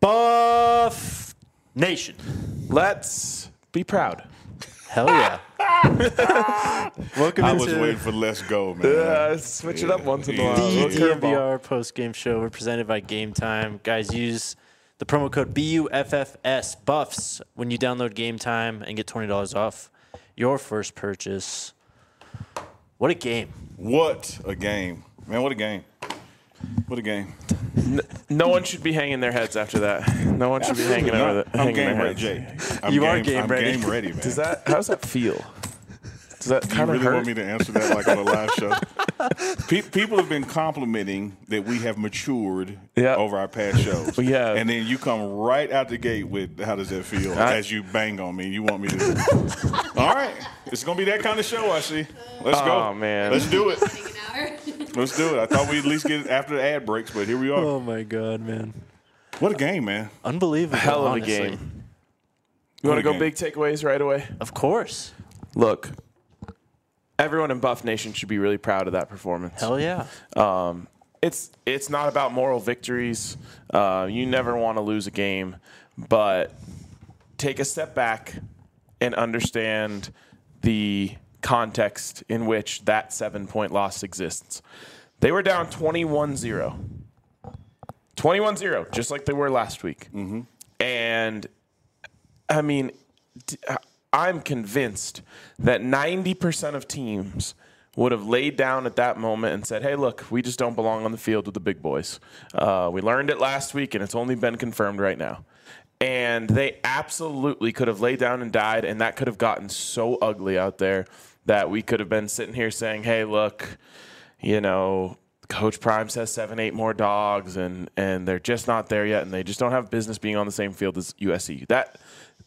Buff Nation. Let's be proud. Hell yeah. Welcome I was into waiting for let's go, man. Switch it up once in a while. the Little curveball. DNVR post-game show. We're presented by Game Time. Guys, use the promo code BUFFS, Buffs, when you download Game Time and get $20 off your first purchase. What a game. What a game. Man, what a game. What a game. No one should be hanging their heads after that. No one should be hanging I'm their game ready, heads. Jay. I'm You are game ready. I'm game ready, man. How does that feel? Does that you kind of really hurt? want me to answer that like on a live show? People have been complimenting that we have matured over our past shows. We have. And then you come right out the gate with how does that feel as you bang on me. You want me to. All right. It's going to be that kind of show, I see. Let's go. Oh, man. Let's do it. Let's do it. I thought we'd at least get it after the ad breaks, but here we are. Oh, my God, man. What a game, man. Unbelievable, Hell of honestly. a game. You want to go game. big takeaways right away? Of course. Look, everyone in Buff Nation should be really proud of that performance. Hell yeah. It's not about moral victories. You never want to lose a game, but take a step back and understand the context in which that 7-point loss exists. They were down 21-0. 21-0, just like they were last week. Mm-hmm. And, I mean, I'm convinced that 90% of teams would have laid down at that moment and said, hey, look, we just don't belong on the field with the big boys. We learned it last week, and it's only been confirmed right now. And they absolutely could have laid down and died, and that could have gotten so ugly out there that we could have been sitting here saying, hey, look, you know, Coach Prime says 7, 8 more dogs, and they're just not there yet, and they just don't have business being on the same field as USC. That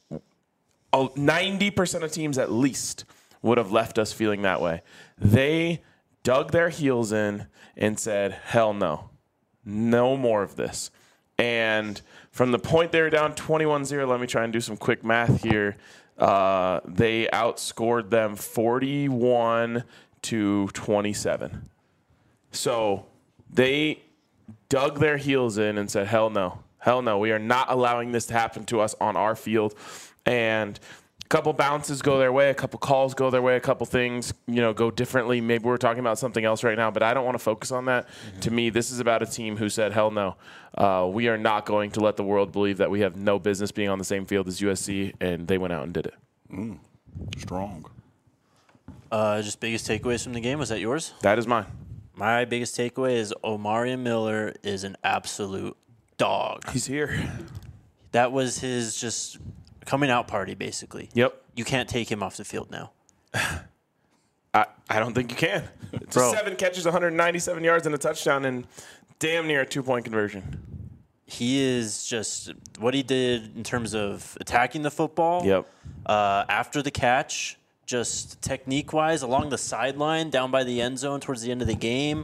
90% of teams at least would have left us feeling that way. They dug their heels in and said, hell no. No more of this. And from the point they were down 21-0, let me try and do some quick math here. They outscored them 41-27. So they dug their heels in and said, hell no. Hell no. We are not allowing this to happen to us on our field. And a couple bounces go their way, a couple calls go their way, a couple things, go differently. Maybe we're talking about something else right now, but I don't want to focus on that. Mm-hmm. To me, this is about a team who said, hell no. We are not going to let the world believe that we have no business being on the same field as USC, and they went out and did it. Strong. Just biggest takeaways from the game. Was that yours? That is mine. My biggest takeaway is Omarion Miller is an absolute dog. He's here. That was his just coming out party, basically. Yep. You can't take him off the field now. I don't think you can. It's 7 catches, 197 yards, and a touchdown, and damn near a 2-point conversion. He is just what he did in terms of attacking the football. Yep. After the catch, just technique-wise, along the sideline, down by the end zone towards the end of the game.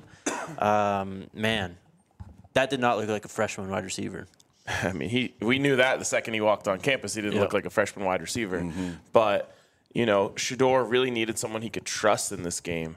Man, that did not look like a freshman wide receiver. I mean, we knew that the second he walked on campus. He didn't look like a freshman wide receiver. Mm-hmm. But, Shedeur really needed someone he could trust in this game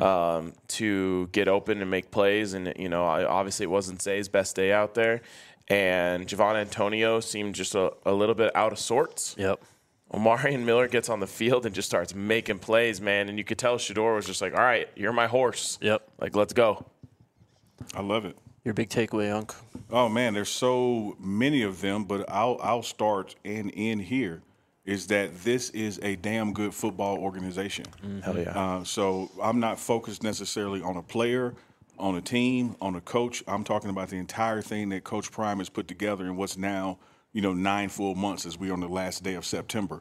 to get open and make plays. And, obviously it wasn't Zay's best day out there. And Javon Antonio seemed just a little bit out of sorts. Yep. Omarion Miller gets on the field and just starts making plays, man. And you could tell Shedeur was just like, all right, you're my horse. Yep. Like, let's go. I love it. Your big takeaway, Unc? Oh, man, there's so many of them, but I'll start and end here, is that this is a damn good football organization. Mm-hmm. Hell yeah. So I'm not focused necessarily on a player, on a team, on a coach. I'm talking about the entire thing that Coach Prime has put together in what's now, 9 full months as we're on the last day of September.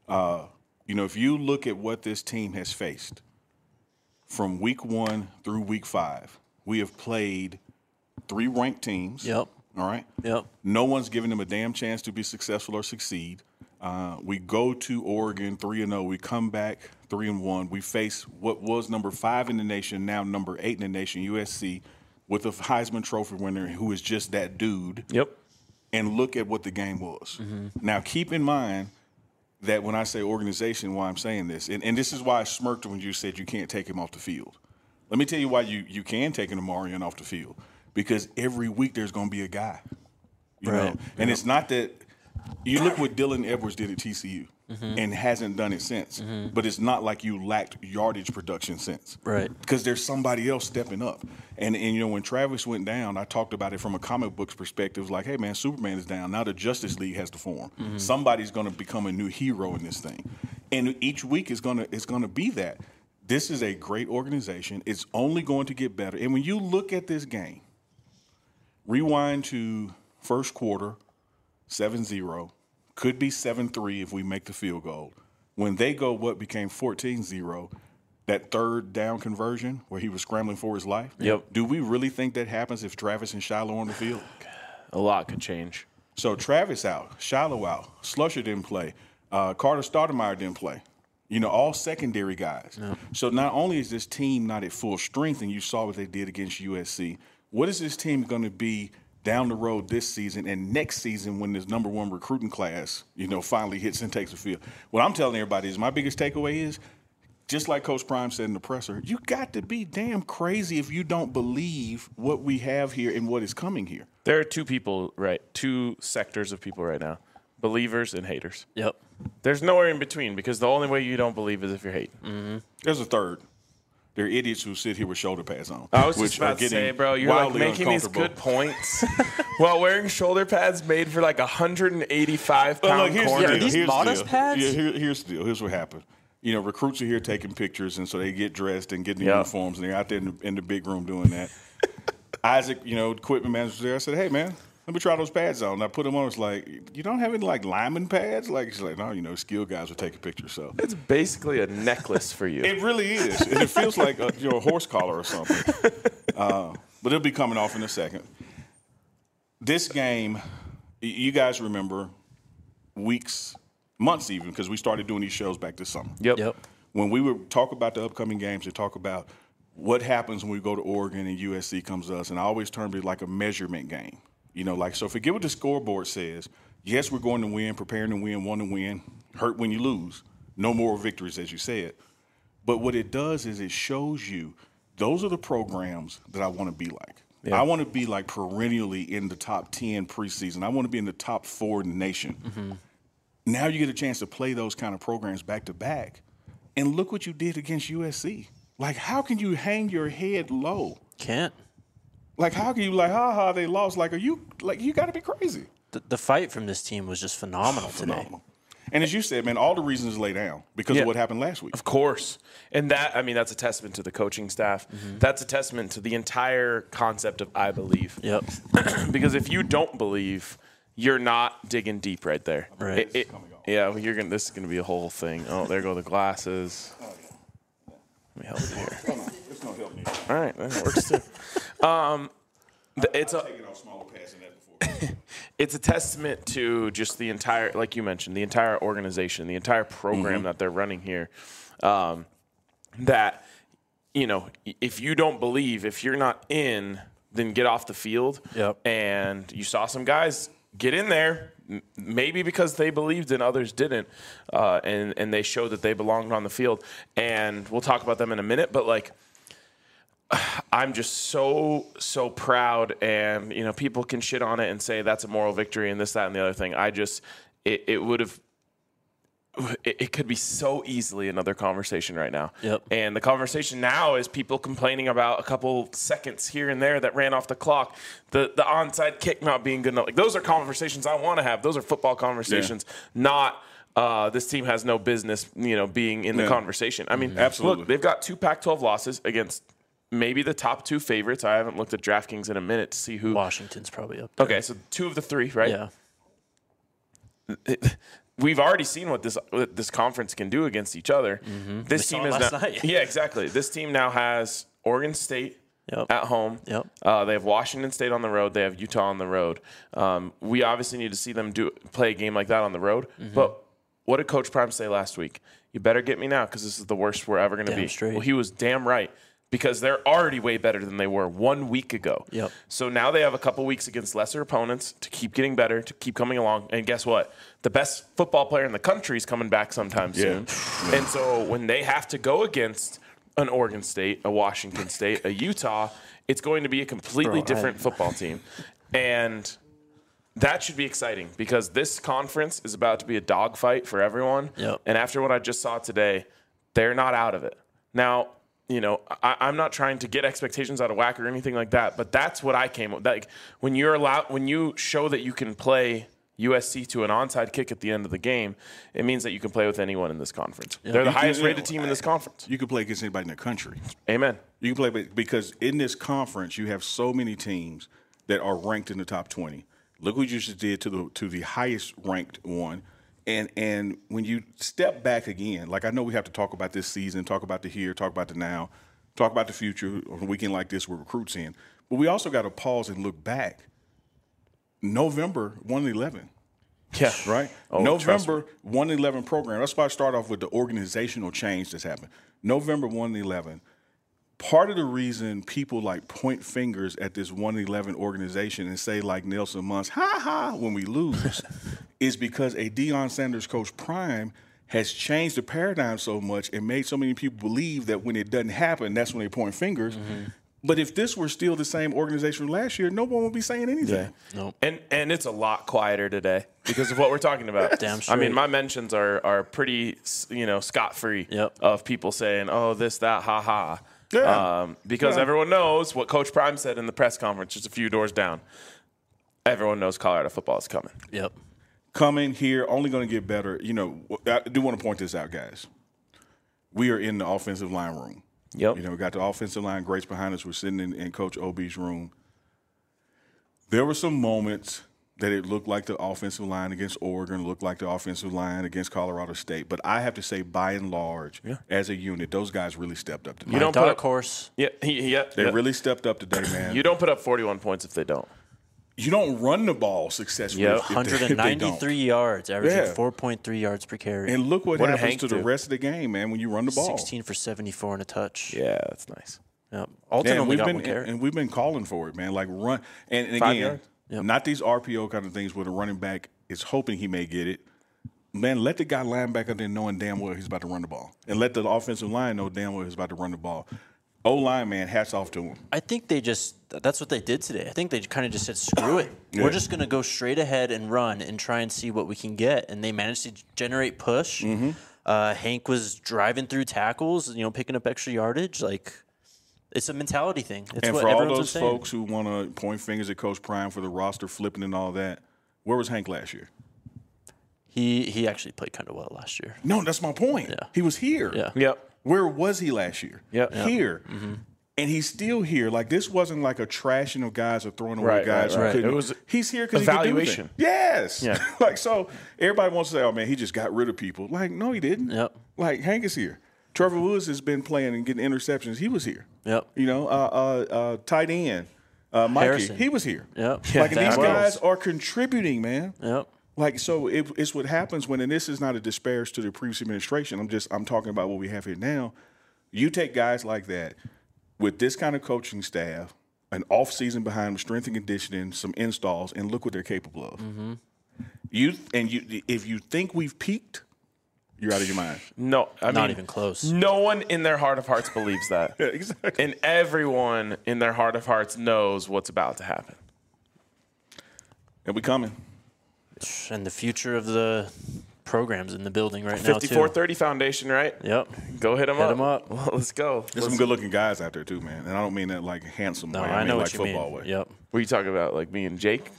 If you look at what this team has faced from week 1 through week 5, we have played 3 ranked teams. Yep. All right? Yep. No one's giving them a damn chance to be successful or succeed. We go to Oregon 3-0. We come back 3-1. We face what was number 5 in the nation, now number 8 in the nation, USC, with a Heisman Trophy winner who is just that dude. Yep. And look at what the game was. Mm-hmm. Now, keep in mind that when I say organization, why I'm saying this, and this is why I smirked when you said you can't take him off the field. Let me tell you why you can take an Omarion off the field. Because every week there's going to be a guy. You Right. know, and it's not that you look what Dylan Edwards did at TCU and hasn't done it since. But it's not like you lacked yardage production since. Right. Because there's somebody else stepping up. And you know, when Travis went down, I talked about it from a comic books perspective. It was like, hey man, Superman is down. Now the Justice League has to form. Somebody's gonna become a new hero in this thing. And each week is gonna be that. This is a great organization. It's only going to get better. And when you look at this game, rewind to first quarter, 7-0. Could be 7-3 if we make the field goal. When they go what became 14-0, that third down conversion where he was scrambling for his life. Yep. Do we really think that happens if Travis and Shiloh are on the field? A lot could change. So Travis out, Shiloh out, Slusher didn't play, Carter Stoudemire didn't play. You know, all secondary guys. No. So not only is this team not at full strength, and you saw what they did against USC, what is this team going to be down the road this season and next season when this #1 recruiting class, you know, finally hits and takes the field? What I'm telling everybody is my biggest takeaway is, just like Coach Prime said in the presser, you got to be damn crazy if you don't believe what we have here and what is coming here. There are two sectors of people right now, believers and haters. Yep. There's nowhere in between because the only way you don't believe is if you're hating. There's a third. There are idiots who sit here with shoulder pads on. I was just about to say, bro, you're like making these good points while wearing shoulder pads made for like 185-pound corners. Are these modest pads? Yeah, here's the deal. Here's what happened. You know, recruits are here taking pictures, and so they get dressed and get in the uniforms, and they're out there in the big room doing that. Isaac, you know, equipment manager was there. I said, hey, man, let me try those pads on. And I put them on. It's like, you don't have any, like, lineman pads? Like, she's like, no, you know, skilled guys will take a picture. So it's basically a necklace for you. It really is. And it feels like a horse collar or something. But it'll be coming off in a second. This game, you guys remember months even, because we started doing these shows back this summer. Yep. When we would talk about the upcoming games and talk about what happens when we go to Oregon and USC comes to us, and I always termed it like a measurement game. You know, like, so forget what the scoreboard says. Yes, we're going to win, preparing to win, want to win, hurt when you lose. No more victories, as you said. But what it does is it shows you those are the programs that I want to be like. Yeah. I want to be like perennially in the top 10 preseason. I want to be in the top 4 in the nation. Mm-hmm. Now you get a chance to play those kind of programs back to back. And look what you did against USC. Like, how can you hang your head low? Can't. Like, how can you, like, they lost? Like, you got to be crazy. The fight from this team was just phenomenal today. And as you said, man, all the reasons lay down because of what happened last week. Of course. And that's a testament to the coaching staff. Mm-hmm. That's a testament to the entire concept of I believe. Yep. Because if you don't believe, you're not digging deep right there. Right. This is going to be a whole thing. Oh, there go the glasses. Let me help you here. Oh, no, it's going to help me. All right, that works too. I've taken off smaller pads than that before. It's a testament to just the entire, like you mentioned, the entire organization, the entire program that they're running here. That, you know, if you don't believe, if you're not in, then get off the field. Yep. And you saw some guys get in there, maybe because they believed and others didn't, and they showed that they belonged on the field. And we'll talk about them in a minute, but like, I'm just so proud, and you know, people can shit on it and say that's a moral victory and this, that, and the other thing. It could be so easily another conversation right now. Yep. And the conversation now is people complaining about a couple seconds here and there that ran off the clock, the onside kick not being good enough. Like, those are conversations I want to have. Those are football conversations, not this team has no business, you know, being in the conversation. I mean, absolutely. Look, they've got 2 Pac-12 losses against maybe the top 2 favorites. I haven't looked at DraftKings in a minute to see who. Washington's probably up there. Okay, so 2 of the 3, right? Yeah. We've already seen what this conference can do against each other. Mm-hmm. This team is last now, night. Yeah, exactly. This team now has Oregon State at home. Yep. They have Washington State on the road. They have Utah on the road. We obviously need to see them play a game like that on the road. Mm-hmm. But what did Coach Prime say last week? You better get me now because this is the worst we're ever going to be. Straight. Well, he was damn right. Because they're already way better than they were 1 week ago. Yep. So now they have a couple weeks against lesser opponents to keep getting better, to keep coming along. And guess what? The best football player in the country is coming back sometime soon. And so when they have to go against an Oregon State, a Washington State, a Utah, it's going to be a completely different football team. And that should be exciting because this conference is about to be a dogfight for everyone. Yep. And after what I just saw today, they're not out of it. Now, I'm not trying to get expectations out of whack or anything like that, but that's what I came with. Like when you show that you can play USC to an onside kick at the end of the game, it means that you can play with anyone in this conference. They're the highest rated team in this conference. You can play against anybody in the country. Amen. You can play because in this conference you have so many teams that are ranked in the top 20. Look what you just did to the highest ranked one. And when you step back again, like I know we have to talk about this season, talk about the here, talk about the now, talk about the future on a weekend like this with recruits in. But we also got to pause and look back. November 1-11. Yeah. Right? November 1-11 program. That's why I start off with the organizational change that's happened. November 1-11. Part of the reason people like point fingers at this 1-11 organization and say like Nelson Muntz, ha ha, when we lose, is because a Deion Sanders coach prime has changed the paradigm so much and made so many people believe that when it doesn't happen, that's when they point fingers. Mm-hmm. But if this were still the same organization from last year, no one would be saying anything. Yeah. Nope. And it's a lot quieter today because of what we're talking about. Damn straight. I mean, my mentions are pretty, scot-free of people saying, oh, this, that, ha, ha. Yeah. Because everyone knows what Coach Prime said in the press conference just a few doors down. Everyone knows Colorado football is coming. Yep. Coming here, only going to get better. I do want to point this out, guys. We are in the offensive line room. Yep. We got the offensive line greats behind us. We're sitting in Coach OB's room. There were some moments that it looked like the offensive line against Oregon, looked like the offensive line against Colorado State. But I have to say, by and large, as a unit, those guys really stepped up today. You don't put up course. Yeah, they really stepped up today, man. You don't put up 41 points if they don't. You don't run the ball successfully. Yep. 193 yards, averaging 4.3 yards per carry. And look what happens to the rest of the game, man, when you run the ball. 16 for 74 and a touch. Yeah, that's nice. Yep. Alton only got one carry. And we've been calling for it, man. Like run. And again, not these RPO kind of things where the running back is hoping he may get it. Man, let the guy linebacker there knowing damn well he's about to run the ball. And let the offensive line know damn well he's about to run the ball. O-line, man, hats off to him. I think that's what they did today. I think they kind of just said, screw it. Yeah. We're just going to go straight ahead and run and try and see what we can get. And they managed to generate push. Mm-hmm. Hank was driving through tackles, picking up extra yardage. Like, it's a mentality thing. It's and what for all those folks who want to point fingers at Coach Prime for the roster flipping and all that, where was Hank last year? He actually played kind of well last year. No, that's my point. Yeah. He was here. Yeah. Yep. Where was he last year? Yep. Here. Mm-hmm. And he's still here. Like, this wasn't like a trashing of guys or throwing away guys. Right. It was he's here because he could do it. Yes. Yeah. So everybody wants to say, oh, man, he just got rid of people. Like, no, he didn't. Yep. Like, Hank is here. Trevor Woods has been playing and getting interceptions. He was here. Yep. Tight end, Mikey, Harrison. he was here. Yep. Like, and these guys are contributing, man. Yep. Like, so it's what happens when, and this is not a disparage to the previous administration. I'm talking about what we have here now. You take guys like that with this kind of coaching staff, an off season behind them, strength and conditioning, some installs, and look what they're capable of. Mm-hmm. If you think we've peaked, you're out of your mind. No, not even close. No one in their heart of hearts believes that. Yeah, exactly. And everyone in their heart of hearts knows what's about to happen. And we coming. And the future of the programs in the building right now, 5430 Foundation, right? Yep. Go hit them up. Well, let's go. There's some good-looking guys out there, too, man. And I don't mean that like handsome way. I mean know like what you football mean. way. Yep. What are you talking about, like me and Jake?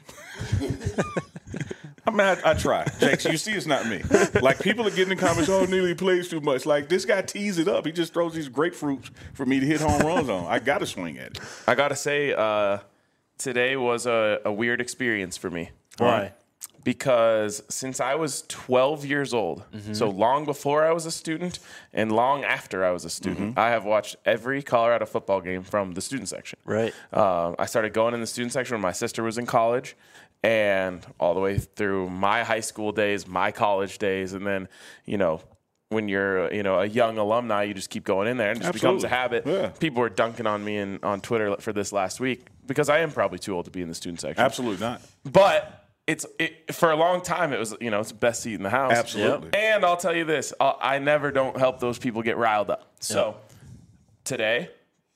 I mean, I try. Jake, you see it's not me. Like, people are getting in the comments, oh, Neely plays too much. Like, this guy tees it up. He just throws these grapefruits for me to hit home runs on. I got to swing at it. I got to say, today was a weird experience for me. Why? Because since I was 12 years old, so long before I was a student and long after I was a student, I have watched every Colorado football game from the student section. Right. I started going in the student section when my sister was in college, and all the way through my high school days, my college days, and then, when you're, a young alumni, you just keep going in there, and it just becomes a habit. Yeah. People were dunking on me on Twitter for this last week because I am probably too old to be in the student section. Absolutely not. But for a long time, it was, it's the best seat in the house. Absolutely. And I'll tell you this, I never don't help those people get riled up. So today,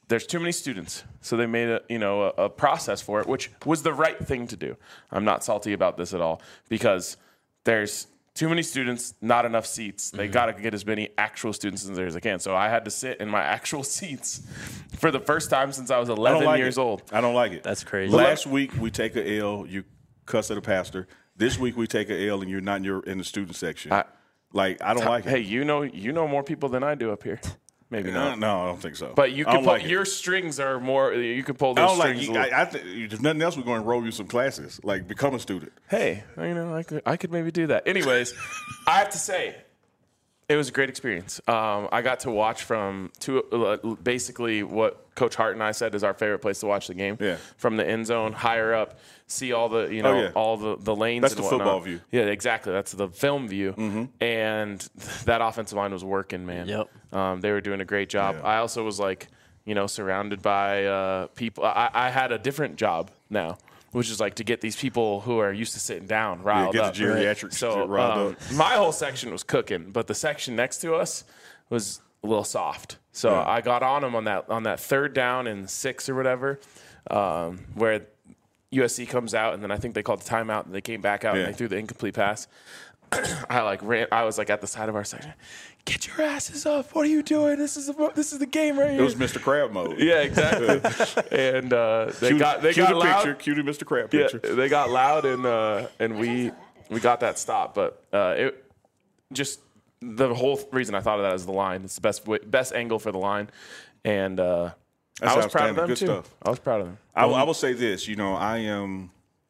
there's too many students, so they made a process for it, which was the right thing to do. I'm not salty about this at all because there's too many students, not enough seats. They got to get as many actual students as there as they can. So I had to sit in my actual seats for the first time since I was 11 years old. I don't like it. That's crazy. Last week we take a L, you cuss at a pastor. This week we take a L and you're not in the student section. I don't like it. Hey, you know more people than I do up here. Maybe not. No, I don't think so. But you can pull, your strings are more. You can pull those strings. If nothing else, we're going to enroll you some classes. Like become a student. Hey, I could maybe do that. Anyways, I have to say, it was a great experience. I got to watch from basically what Coach Hart and I said is our favorite place to watch the game. Yeah. From the end zone, higher up, see all the all the lanes. That's and the football view. Yeah, exactly. That's the film view. Mm-hmm. And that offensive line was working, man. Yep. They were doing a great job. Yeah. I also was surrounded by people. I had a different job now, which is to get these people who are used to sitting down riled get up. the geriatrics So riled up. my whole section was cooking, but the section next to us was a little soft. So I got on them on that third down and 6 or whatever, where USC comes out, and then I think they called the timeout, and they came back out and they threw the incomplete pass. I ran. I was at the side of our section. Get your asses up! What are you doing? This is the game right here. It was Mr. Crab mode. Yeah, exactly. And they got loud. Cue the Mr. Crab picture. Yeah, they got loud, and we got that stop. But it just the whole reason I thought of that is the line. It's the best angle for the line, and I was proud of them Good too. stuff. I was proud of them. I will say this. I am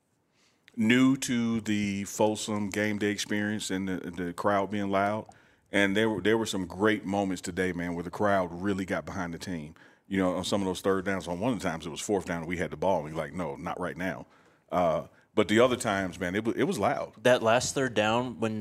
new to the Folsom game day experience and the crowd being loud. And there were some great moments today, man, where the crowd really got behind the team. On some of those third downs, on one of the times it was fourth down and we had the ball. And we're like, no, not right now. But the other times, man, it was loud. That last third down when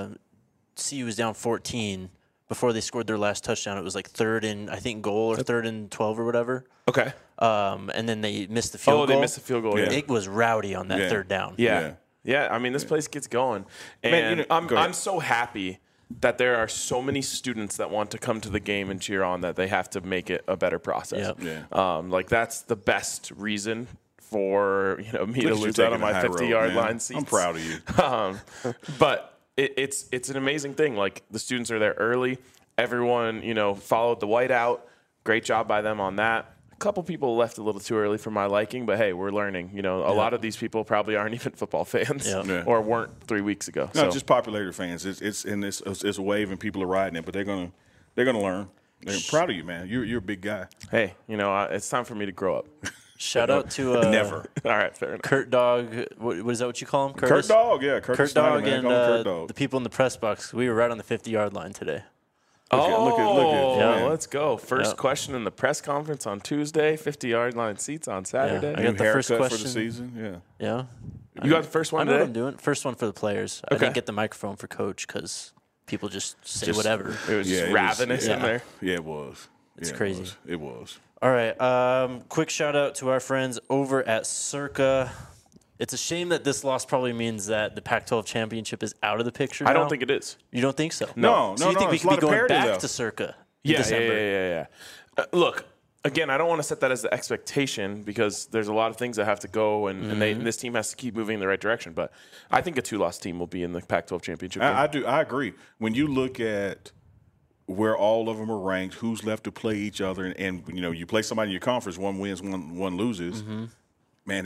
CU was down 14 before they scored their last touchdown, it was third and I think goal or third and 12 or whatever. Okay. And then they missed the field goal. Oh, they missed the field goal. Yeah. It was rowdy on that third down. Yeah. I mean, this place gets going, and Man, I'm so happy that there are so many students that want to come to the game and cheer on that they have to make it a better process. Yep. Yeah. That's the best reason for me to lose out on my 50-yard line seats. I'm proud of you. But it's an amazing thing. The students are there early. Everyone followed the whiteout. Great job by them on that. A couple people left a little too early for my liking, but hey, we're learning. A lot of these people probably aren't even football fans or weren't 3 weeks ago. No, just popularity fans. It's a wave and people are riding it, but they're gonna learn. They're proud of you, man. You're a big guy. Hey, it's time for me to grow up. Shout out to Never. All right, fair enough. Kurt Dog. What is that what you call him? Curtis? Kurt Dog, yeah. Kurt Snyder, Dog man. and Call him Kurt Dog. the people in the press box. We were right on the 50-yard line today. Look at man. Let's go. First question in the press conference on Tuesday, 50-yard line seats on Saturday. I got the first haircut question for the season. Yeah. Yeah. You got the first one I know what today? I'm doing. First one for the players. I didn't get the microphone for Coach because people just say whatever. It was just it was- ravenous in there. Yeah, it was. It's Yeah, crazy. It was. All right. Quick shout out to our friends over at Circa. It's a shame that this loss probably means that the Pac-12 championship is out of the picture now. I don't think it is. You don't think so? No, So you think we it's a could be lot of going parity, back though. to Circa in Yeah. December? Look, again, I don't want to set that as the expectation because there's a lot of things that have to go, and this team has to keep moving in the right direction. But I think a 2-loss team will be in the Pac-12 championship game. I do. I agree. When you look at where all of them are ranked, who's left to play each other, and you play somebody in your conference, one wins, one loses. Man,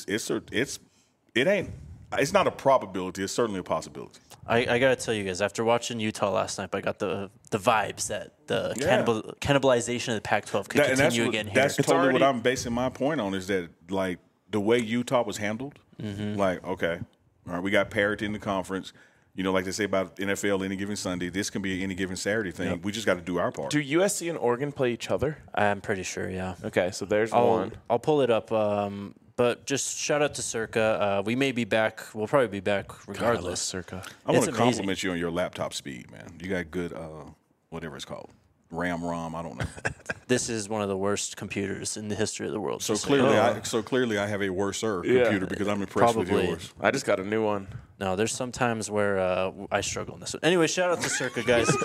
it's not a probability. It's certainly a possibility. I got to tell you guys, after watching Utah last night, I got the vibes that the cannibalization of the Pac-12 could continue again here. That's totally what I'm basing my point on is that, the way Utah was handled, okay, all right, we got parity in the conference. Like they say about NFL any given Sunday, this can be any given Saturday thing. Yep. We just got to do our part. Do USC and Oregon play each other? I'm pretty sure, yeah. Okay, so there's one. I'll pull it up. But just shout out to Circa. We may be back. We'll probably be back regardless. Circa. I want It's to amazing. compliment you on your laptop speed, man. You got good, whatever it's called, RAM. I don't know. This is one of the worst computers in the history of the world. So just clearly, I have a worser computer because I'm impressed with Probably. yours. I just got a new one. No, there's some times where I struggle in this one. Anyway, shout out to Circa, guys.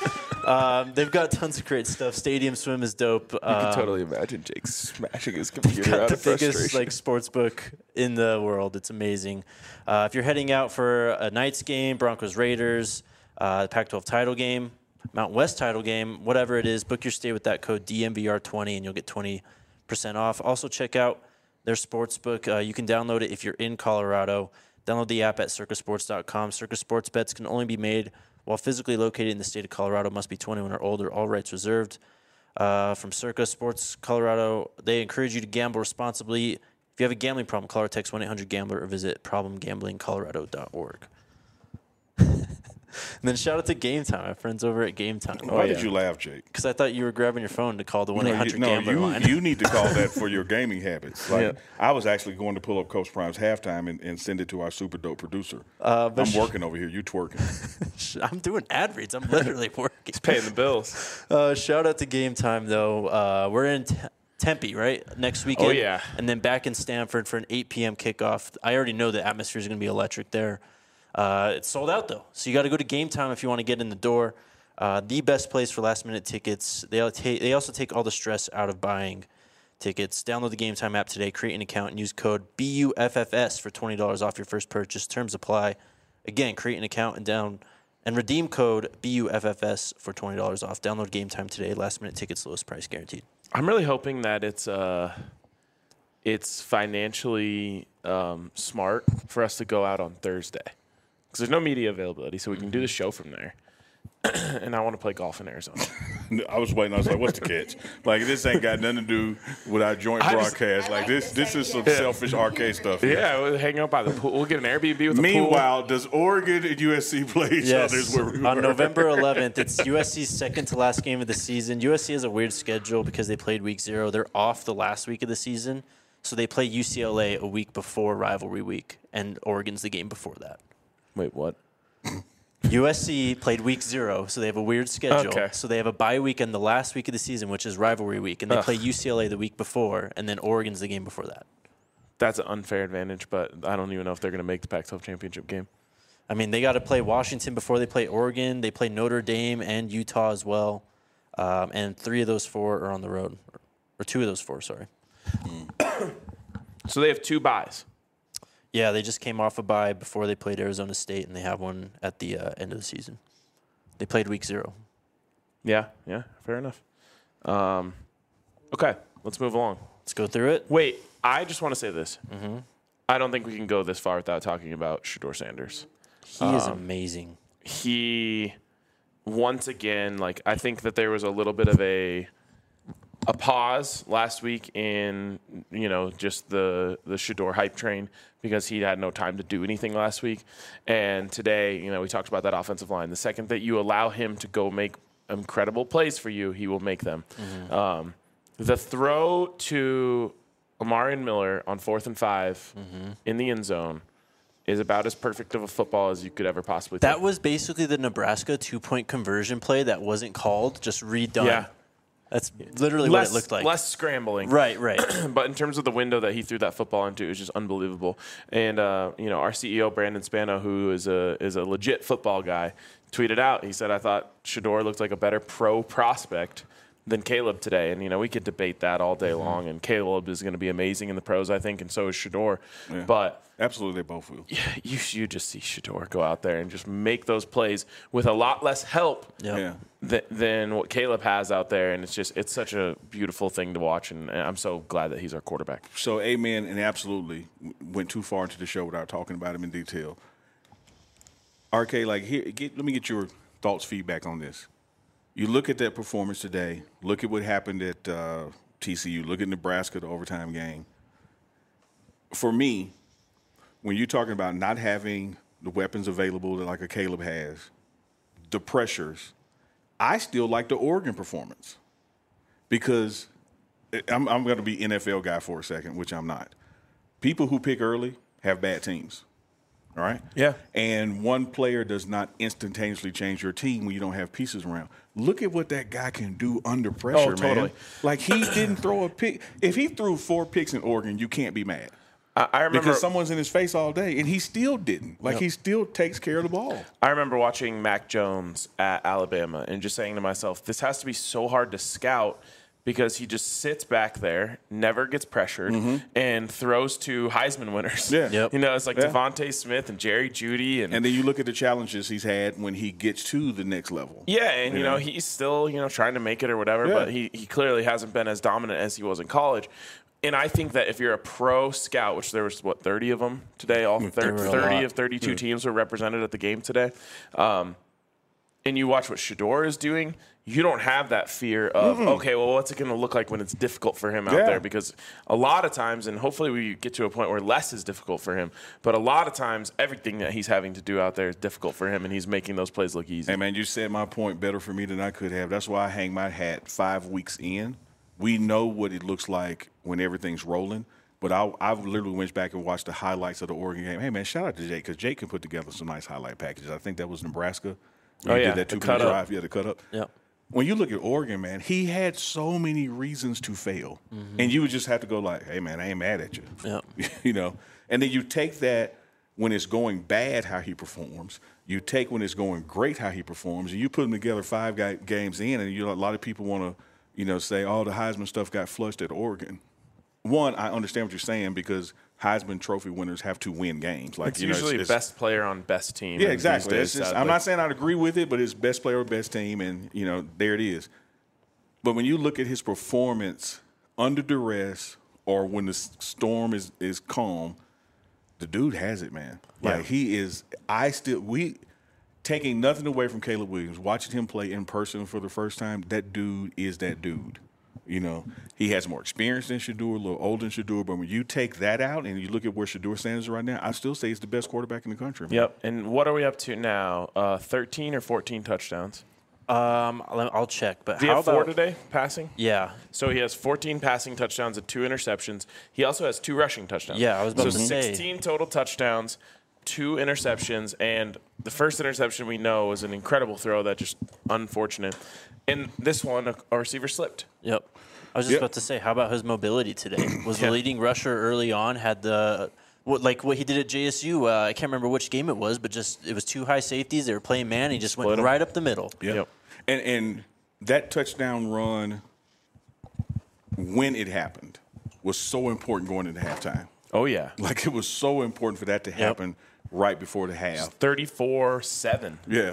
They've got tons of great stuff. Stadium Swim is dope. You can totally imagine Jake smashing his computer Got out the of biggest frustration. sports book in the world. It's amazing. If you're heading out for a Knights game, Broncos Raiders, Pac-12 title game, Mountain West title game, whatever it is, book your stay with that code DMVR20 and you'll get 20% off. Also check out their sports book. You can download it if you're in Colorado. Download the app at circasports.com. Circa Sports bets can only be made while physically located in the state of Colorado. Must be 21 or older. All rights reserved. From Circa Sports Colorado, they encourage you to gamble responsibly. If you have a gambling problem, call or text 1-800-GAMBLER or visit problemgamblingcolorado.org. And then shout out to Game Time, my friends over at Game Time. Why did you laugh, Jake? Because I thought you were grabbing your phone to call the 1-800-GAMBLER line. You need to call that for your gaming habits. Like, I was actually going to pull up Coach Prime's halftime and send it to our super dope producer. I'm working over here. You twerking. I'm doing ad reads. I'm literally working. He's paying the bills. Shout out to Game Time, though. We're in Tempe, right? Next weekend. Oh, yeah. And then back in Stanford for an 8 p.m. kickoff. I already know the atmosphere is going to be electric there. It's sold out, though. So you got to go to Game Time if you want to get in the door. The best place for last-minute tickets. They also take all the stress out of buying tickets. Download the Game Time app today, create an account, and use code BUFFS for $20 off your first purchase. Terms apply. Again, create an account and redeem code BUFFS for $20 off. Download Game Time today. Last-minute tickets, lowest price guaranteed. I'm really hoping that it's financially smart for us to go out on Thursday. Because there's no media availability, so we can do the show from there. And I want to play golf in Arizona. I was waiting. I was like, what's the catch? Like, this ain't got nothing to do with our joint broadcast. Like, this is some selfish arcade stuff. Yeah, we'll hang out by the pool. We'll get an Airbnb with a pool. Meanwhile, does Oregon and USC play each other? Yes. On November 11th, it's USC's second to last game of the season. USC has a weird schedule because they played week 0. They're off the last week of the season, so they play UCLA a week before rivalry week, and Oregon's the game before that. Wait, what? USC played week 0, so they have a weird schedule. Okay. So they have a bye week in the last week of the season, which is rivalry week, and they play UCLA the week before, and then Oregon's the game before that. That's an unfair advantage, but I don't even know if they're going to make the Pac-12 championship game. I mean, they got to play Washington before they play Oregon. They play Notre Dame and Utah as well, and 3 of those 4 are on the road, or 2 of those 4, sorry. So they have 2 byes. Yeah, they just came off a bye before they played Arizona State, and they have one at the end of the season. They played week 0. Yeah, fair enough. Okay, let's move along. Let's go through it. Wait, I just want to say this. Mm-hmm. I don't think we can go this far without talking about Shedeur Sanders. He is amazing. He, once again, like, I think that there was a little bit of a pause last week in, just the Shedeur hype train because he had no time to do anything last week. And today, we talked about that offensive line. The second that you allow him to go make incredible plays for you, he will make them. Mm-hmm. The throw to Amarian Miller on 4th and 5 in the end zone is about as perfect of a football as you could ever possibly That take. was basically the Nebraska 2-point conversion play that wasn't called, just redone. Yeah. That's literally what it looked like. Less scrambling. Right. But in terms of the window that he threw that football into, it was just unbelievable. And, our CEO, Brandon Spano, who is a legit football guy, tweeted out, he said, I thought Shedeur looked like a better pro prospect than Caleb today. And, we could debate that all day long. And Caleb is going to be amazing in the pros, I think, and so is Shedeur. Yeah. But absolutely, they both will. Yeah, you just see Shedeur go out there and just make those plays with a lot less help than what Caleb has out there. And it's such a beautiful thing to watch. And I'm so glad that he's our quarterback. So, amen, and absolutely went too far into the show without talking about him in detail. RK, let me get your thoughts, feedback on this. You look at that performance today. Look at what happened at TCU. Look at Nebraska, the overtime game. For me, when you're talking about not having the weapons available that like a Caleb has, the pressures, I still like the Oregon performance because I'm going to be NFL guy for a second, which I'm not. People who pick early have bad teams. All right? Yeah. And one player does not instantaneously change your team when you don't have pieces around. Look at what that guy can do under pressure, totally. man. Like, he didn't throw a pick. If he threw 4 picks in Oregon, you can't be mad. I remember because someone's in his face all day, and he still didn't. Like he still takes care of the ball. I remember watching Mac Jones at Alabama and just saying to myself, this has to be so hard to scout because he just sits back there, never gets pressured, and throws to Heisman winners. Yeah. Yep. You know, it's like Devontae Smith and Jerry Jeudy. And then you look at the challenges he's had when he gets to the next level. yeah, and, you know, he's still, trying to make it or whatever, but he clearly hasn't been as dominant as he was in college. And I think that if you're a pro scout, which there was, 30 of them today, all 30 of 32 teams were represented at the game today, and you watch what Shedeur is doing, you don't have that fear of, okay, well, what's it going to look like when it's difficult for him out there? Because a lot of times, and hopefully we get to a point where less is difficult for him, but a lot of times everything that he's having to do out there is difficult for him, and he's making those plays look easy. Hey, man, you said my point better for me than I could have. That's why I hang my hat 5 weeks in. We know what it looks like when everything's rolling. But I literally went back and watched the highlights of the Oregon game. Hey, man, shout out to Jake because Jake can put together some nice highlight packages. I think that was Nebraska. Oh, yeah, did that the 2-minute drive. Yeah, the cut up. Yep. When you look at Oregon, man, he had so many reasons to fail. And you would just have to go like, hey, man, I ain't mad at you. Yep. And then you take that when it's going bad, how he performs. You take when it's going great, how he performs. And you put them together 5 games in, and a lot of people want to, say, oh, the Heisman stuff got flushed at Oregon. One, I understand what you're saying because Heisman Trophy winners have to win games. Like it's usually best player on best team. Yeah, exactly. I'm not saying I'd agree with it, but it's best player or best team, and, there it is. But when you look at his performance under duress or when the storm is calm, the dude has it, man. Like he is taking nothing away from Caleb Williams, watching him play in person for the first time, that dude is that dude. He has more experience than Shedeur, a little older than Shedeur, but when you take that out and you look at where Shedeur stands right now, I still say he's the best quarterback in the country. Man. Yep. And what are we up to now? 13 or 14 touchdowns? I'll check. But Do you have 4 today passing? Yeah. So he has 14 passing touchdowns and 2 interceptions. He also has 2 rushing touchdowns. Yeah, I was about to say. 16 total touchdowns, 2 interceptions, and the first interception we know was an incredible throw that just unfortunate. And this one, a receiver slipped. Yep. I was just about to say, how about his mobility today? Was the leading rusher early on, had what he did at JSU, I can't remember which game it was, but it was 2 high safeties. They were playing man. He just went right up the middle. Yep. And that touchdown run, when it happened, was so important going into halftime. Oh, yeah. Like, it was so important for that to happen right before the half. 34-7. Yeah.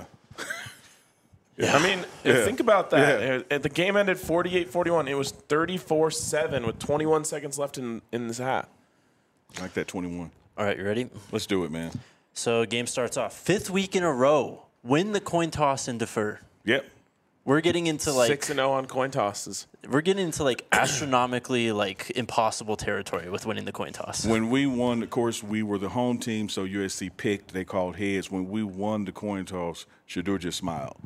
I mean, think about that. The game ended 48-41. It was 34-7 with 21 seconds left in this half. I like that 21. All right, you ready? Let's do it, man. So game starts off. 5th week in a row. Win the coin toss and defer. Yep. We're getting into 6-0 on coin tosses. We're getting into astronomically impossible territory with winning the coin toss. When we won, of course, we were the home team, so USC picked. They called heads. When we won the coin toss, Shedeur just smiled.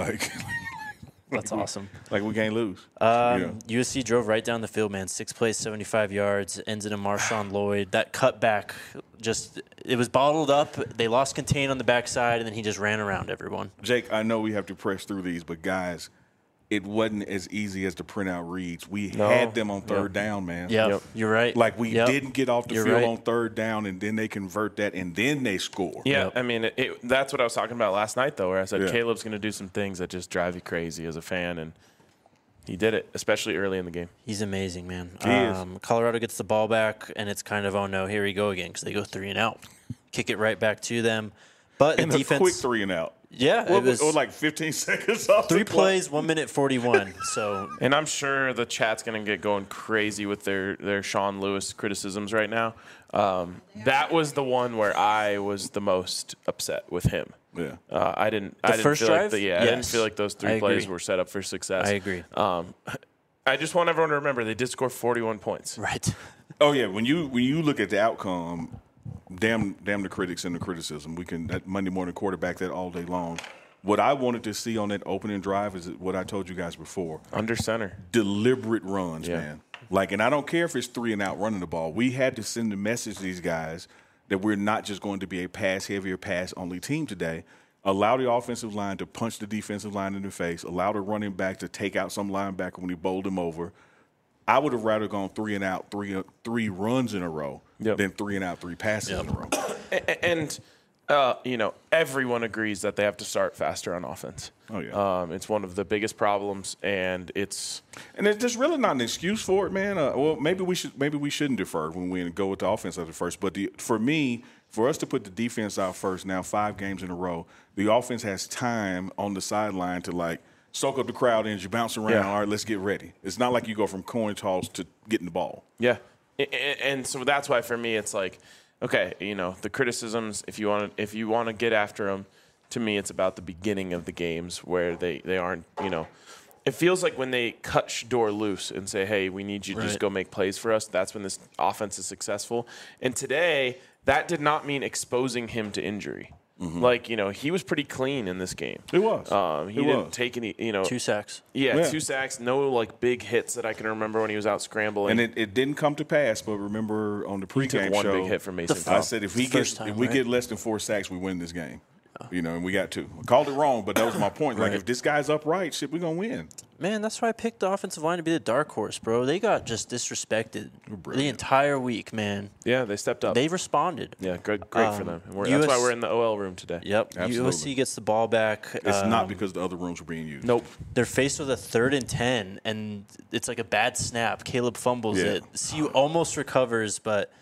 That's awesome. Like we can't lose. USC drove right down the field, man. 6 plays, 75 yards, ends in a Marshawn Lloyd. That cutback, it was bottled up. They lost contain on the backside, and then he just ran around everyone. Jake, I know we have to press through these, but guys, it wasn't as easy as the printout reads. We had them on third down, man. Yep. You're right. Like we didn't get off the field on third down, and then they convert that, and then they score. Yeah, I mean, that's what I was talking about last night, though, where I said Caleb's going to do some things that just drive you crazy as a fan, and he did it, especially early in the game. He's amazing, man. He is. Colorado gets the ball back, and it's kind of, oh, no, here we go again, because they go 3 and out. Kick it right back to them. But and the defense. A quick 3 and out. Yeah, it was like 15 seconds off. 3 plays, 1 minute 41. So, and I'm sure the chat's going to get going crazy with their Sean Lewis criticisms right now. That was the one where I was the most upset with him. Yeah, I didn't. First feel drive. I didn't feel like those 3 plays were set up for success. I agree. I just want everyone to remember they did score 41 points. Right. Oh yeah, when you look at the outcome. Damn the critics and the criticism. We can that Monday morning quarterback that all day long. What I wanted to see on that opening drive is what I told you guys before. Under center. Deliberate runs, man. And I don't care if it's 3 and out running the ball. We had to send the message to these guys that we're not just going to be a pass-heavy or pass-only team today. Allow the offensive line to punch the defensive line in the face. Allow the running back to take out some linebacker when he bowled him over. I would have rather gone 3 and out, three runs in a row than 3 and out, 3 passes in a row. And everyone agrees that they have to start faster on offense. Oh yeah, it's one of the biggest problems, and there's really not an excuse for it, man. Well, maybe we shouldn't defer when we go with the offense at the first. But for us to put the defense out first now, 5 games in a row, the offense has time on the sideline to soak up the crowd energy, bounce around. Yeah. All right, let's get ready. It's not like you go from coin toss to getting the ball. Yeah, and so that's why for me it's like, okay, the criticisms, if you want to get after them, to me it's about the beginning of the games where they aren't, it feels like when they cut Shador loose and say, hey, we need you to just go make plays for us, that's when this offense is successful. And today, that did not mean exposing him to injury. Mm-hmm. He was pretty clean in this game. He was. He didn't take any, 2 sacks. Yeah, 2 sacks, no big hits that I can remember when he was out scrambling. And it didn't come to pass, but remember on the pregame took one show, big hit from Mason I said if we get less than 4 sacks, we win this game. And we got 2. I called it wrong, but that was my point. Like, if this guy's upright, shit, we're going to win. Man, that's why I picked the offensive line to be the dark horse, bro. They got just disrespected the entire week, man. Yeah, they stepped up. They responded. Yeah, great for them. That's why we're in the OL room today. Yep. Absolutely. USC gets the ball back. It's not because the other rooms were being used. Nope. They're faced with a 3rd and 10, and it's like a bad snap. Caleb fumbles it. CU almost recovers, but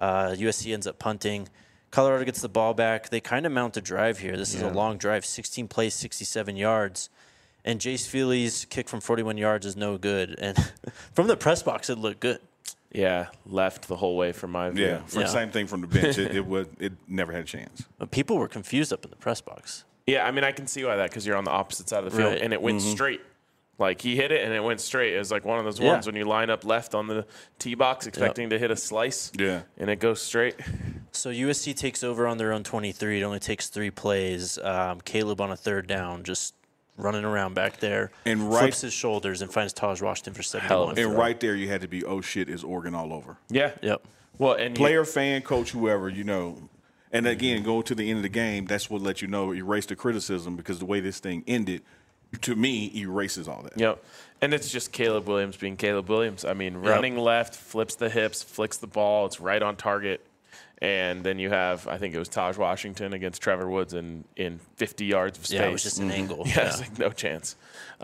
USC ends up punting. Colorado gets the ball back. They kind of mount a drive here. This is a long drive, 16 plays, 67 yards. And Jace Feely's kick from 41 yards is no good. And from the press box, it looked good. Yeah, left the whole way from my view. Yeah, the same thing from the bench. It never had a chance. But people were confused up in the press box. Yeah, I mean, I can see why that, because you're on the opposite side of the field, and it went straight. Like, he hit it, and it went straight. It was like one of those ones when you line up left on the tee box expecting to hit a slice, and it goes straight. So USC takes over on their own 23. It only takes 3 plays. Caleb on a 3rd down, just running around back there, and flips his shoulders and finds Taj Washington for 71. And right there, you had to be, oh, shit, is Oregon all over. Yeah. Yep. Well, and player, fan, coach, whoever, And again, go to the end of the game, that's what let you know, erase the criticism, because the way this thing ended, to me, erases all that. Yep. And it's just Caleb Williams being Caleb Williams. I mean, running left, flips the hips, flicks the ball. It's right on target. And then you have, I think it was Taj Washington against Trevor Woods in 50 yards of space. Yeah, it was just an angle. Yeah, it's like no chance.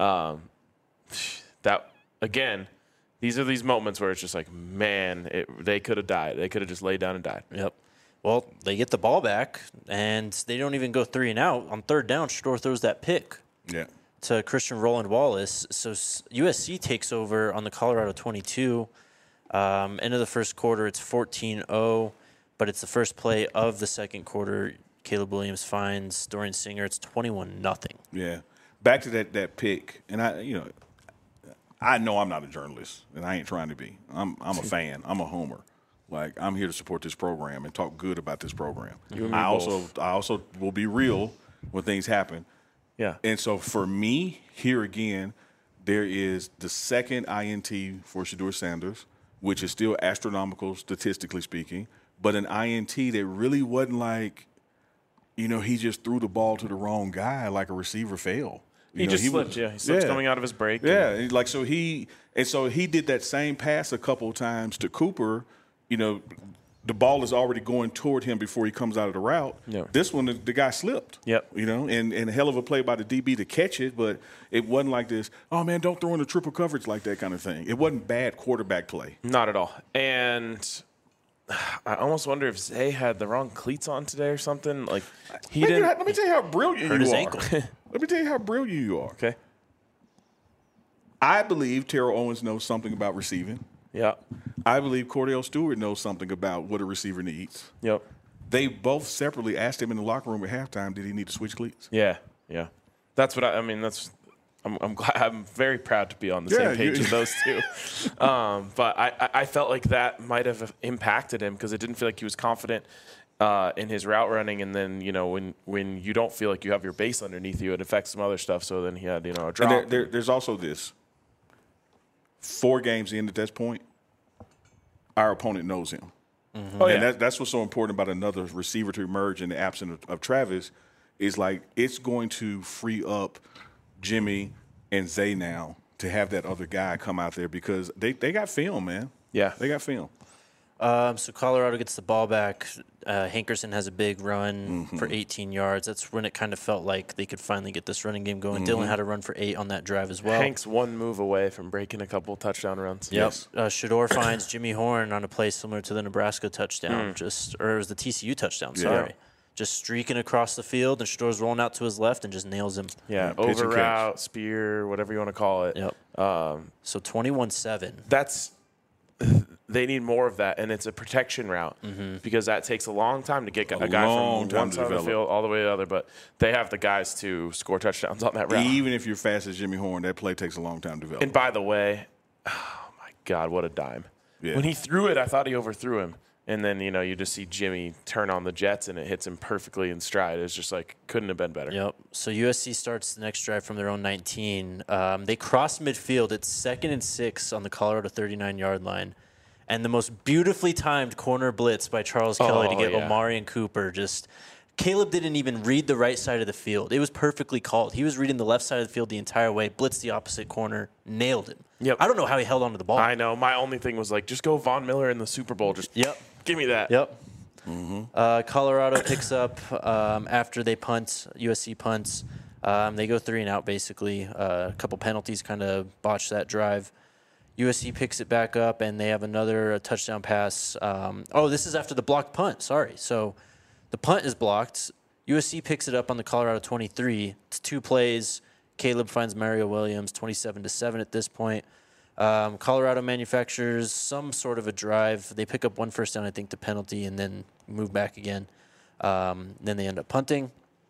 That, again, these are these moments where it's just like, man, they could have died. They could have just laid down and died. Yep. Well, they get the ball back, and they don't even go 3 and out. On 3rd down, Shador throws that pick. Yeah. To Christian Roland Wallace. So USC takes over on the Colorado 22. End of the first quarter, it's 14-0, but it's the first play of the second quarter. Caleb Williams finds Dorian Singer. It's 21-0. Yeah. Back to that pick, and I know I'm not a journalist, and I ain't trying to be. I'm a fan. I'm a homer. Like, I'm here to support this program and talk good about this program. I also will be real when things happen. Yeah. And so for me, here again, there is the second INT for Shedeur Sanders, which is still astronomical statistically speaking, but an INT that really wasn't like, he just threw the ball to the wrong guy like a receiver fail. He slipped, He slipped coming out of his break. Yeah, so he did that same pass a couple of times to Cooper, the ball is already going toward him before he comes out of the route. Yeah. This one, the guy slipped. Yep. And a hell of a play by the DB to catch it, but it wasn't like this, oh, man, don't throw in the triple coverage like that kind of thing. It wasn't bad quarterback play. Not at all. And I almost wonder if Zay had the wrong cleats on today or something. Like, he didn't. Let me tell you how brilliant hurt you his are. ankle. Let me tell you how brilliant you are. Okay. I believe Terrell Owens knows something about receiving. Yeah. I believe Cordell Stewart knows something about what a receiver needs. Yep. They both separately asked him in the locker room at halftime, did he need to switch cleats? Yeah. That's what I'm glad. I'm very proud to be on the same page as those two. But I felt like that might have impacted him because it didn't feel like he was confident in his route running, and then when you don't feel like you have your base underneath you, it affects some other stuff. So then he had a drop. And there's also this. 4 games in at this point, our opponent knows him. Mm-hmm. Oh, yeah. And that's what's so important about another receiver to emerge in the absence of Travis is like it's going to free up Jimmy and Zay now to have that other guy come out there because they got film, man. Yeah. They got film. So Colorado gets the ball back. Hankerson has a big run for 18 yards. That's when it kind of felt like they could finally get this running game going. Dylan had a run for 8 on that drive as well. Hank's one move away from breaking a couple touchdown runs. Yep. Shador finds Jimmy Horn on a play similar to the Nebraska touchdown, or it was the TCU touchdown, sorry. Yeah. Just streaking across the field, and Shador's rolling out to his left and just nails him. Yeah, Pitch and over catch. route, spear, whatever you want to call it. Yep. So 21-7. They need more of that, and it's a protection route because that takes a long time to get a guy long from time one to side of the develop. field all the way to the other. But they have the guys to score touchdowns on that route. Even if you're fast as Jimmy Horn, that play takes a long time to develop. And by the way, oh my God, what a dime! Yeah. When he threw it, I thought he overthrew him, and then you just see Jimmy turn on the jets, and it hits him perfectly in stride. It's just like couldn't have been better. Yep. So USC starts the next drive from their own 19. They cross midfield. It's 2nd and 6 on the Colorado 39-yard line. And the most beautifully timed corner blitz by Charles Kelly to get Omari and Cooper. Caleb didn't even read the right side of the field. It was perfectly called. He was reading the left side of the field the entire way, blitzed the opposite corner, nailed him. Yep. I don't know how he held onto the ball. I know. My only thing was like, just go Von Miller in the Super Bowl. Just give me that. Yep. Colorado picks up after they punt. USC punts. They go 3 and out basically. A couple penalties kind of botched that drive. USC picks it back up, and they have another touchdown pass. This is after the blocked punt. Sorry. So the punt is blocked. USC picks it up on the Colorado 23. It's 2 plays. Caleb finds Mario Williams, 27-7 at this point. Colorado manufactures some sort of a drive. They pick up 1 first down, I think, to penalty, and then move back again. Then they end up punting.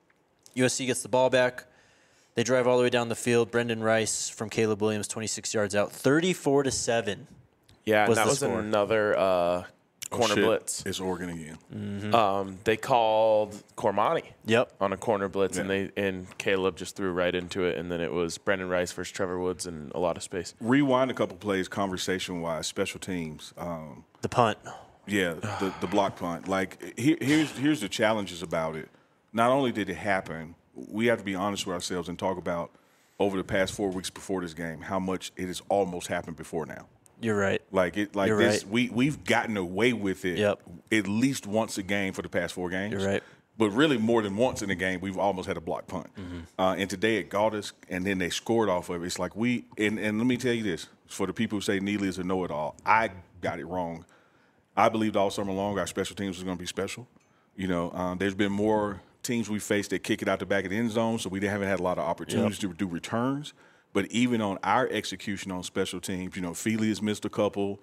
USC gets the ball back. They drive all the way down the field. Brendan Rice from Caleb Williams, 26 yards out, 34-7. Yeah, and was that the was score. another corner Shit, blitz. It's Oregon again. They called Cormani Yep. on a corner blitz, Yeah. and Caleb just threw right into it, and then it was Brendan Rice versus Trevor Woods and a lot of space. Rewind a couple plays, conversation-wise, special teams. The punt. Yeah, the block punt. Like here's the challenges about it. Not only did it happen, we have to be honest with ourselves and talk about over the past 4 weeks before this game how much it has almost happened before now. You're right. You're this. Right. We've gotten away with it. Yep. At least once a game for the past 4 games. You're right. But really, more than once in a game, we've almost had a block punt. And today it got us, and then they scored off of it. It's like and let me tell you this for the people who say Neely is a know-it-all, I got it wrong. I believed all summer long our special teams was going to be special. There's been more teams we faced that kick it out the back of the end zone, so we haven't had a lot of opportunities to do returns. But even on our execution on special teams, Feely has missed a couple.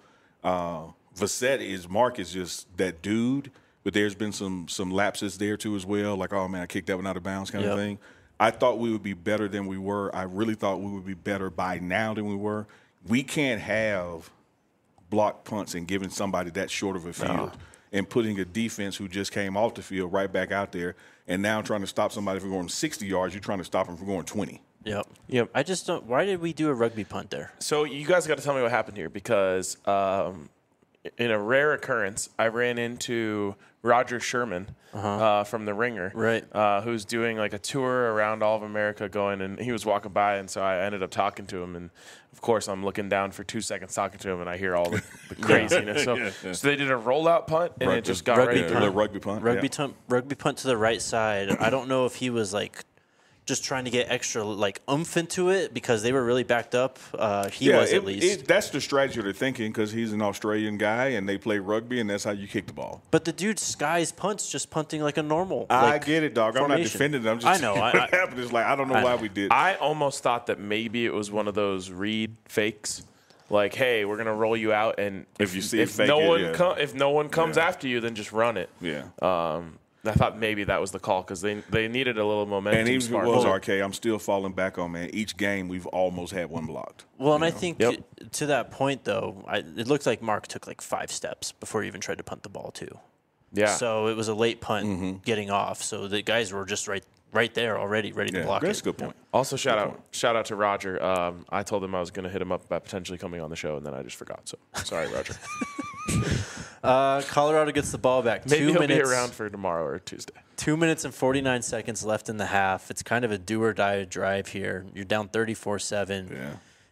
Mark is just that dude. But there's been some lapses there too as well, like, oh man, I kicked that one out of bounds kind of thing. I thought we would be better than we were. I really thought we would be better by now than we were. We can't have blocked punts and giving somebody that short of a field and putting a defense who just came off the field right back out there and now trying to stop somebody from going 60 yards. You're trying to stop them from going 20. Yep. I just don't. Why did we do a rugby punt there? So you guys got to tell me what happened here because in a rare occurrence, I ran into Roger Sherman from The Ringer, Right. Who's doing like a tour around all of America and he was walking by, and so I ended up talking to him, and of course I'm looking down for 2 seconds talking to him, and I hear all the craziness. So they did a rollout punt, and it just got rugby right punt. The rugby punt. Rugby punt to the right side. I don't know if he was like just trying to get extra like oomph into it because they were really backed up. He was at least. That's the strategy they're thinking because he's an Australian guy and they play rugby and that's how you kick the ball. But the dude skies punts just punting like a normal. I get it, dog. formation. I'm not defending them. I'm just I know. saying what happened is like I don't know why we did. I almost thought that maybe it was one of those read fakes. Like, hey, we're gonna roll you out, and If you see it, if fake no it, one yeah. if no one comes after you, then just run it. Yeah. I thought maybe that was the call because they needed a little momentum. And even if it spark. was RK, I'm still falling back on, man. Each game, we've almost had one blocked. Well, and I think Yep. to that point, though, it looked like Mark took like 5 steps before he even tried to punt the ball, too. Yeah. So it was a late punt getting off. So the guys were just right there already, ready to block That's it. a good point. Also, shout out to Roger. I told him I was going to hit him up about potentially coming on the show, and then I just forgot. So sorry, Roger. Colorado gets the ball back. Maybe 2 he'll minutes, be around for tomorrow or Tuesday. 2 minutes and 49 seconds left in the half. It's kind of a do or die drive here. You're down 34-7. Yeah.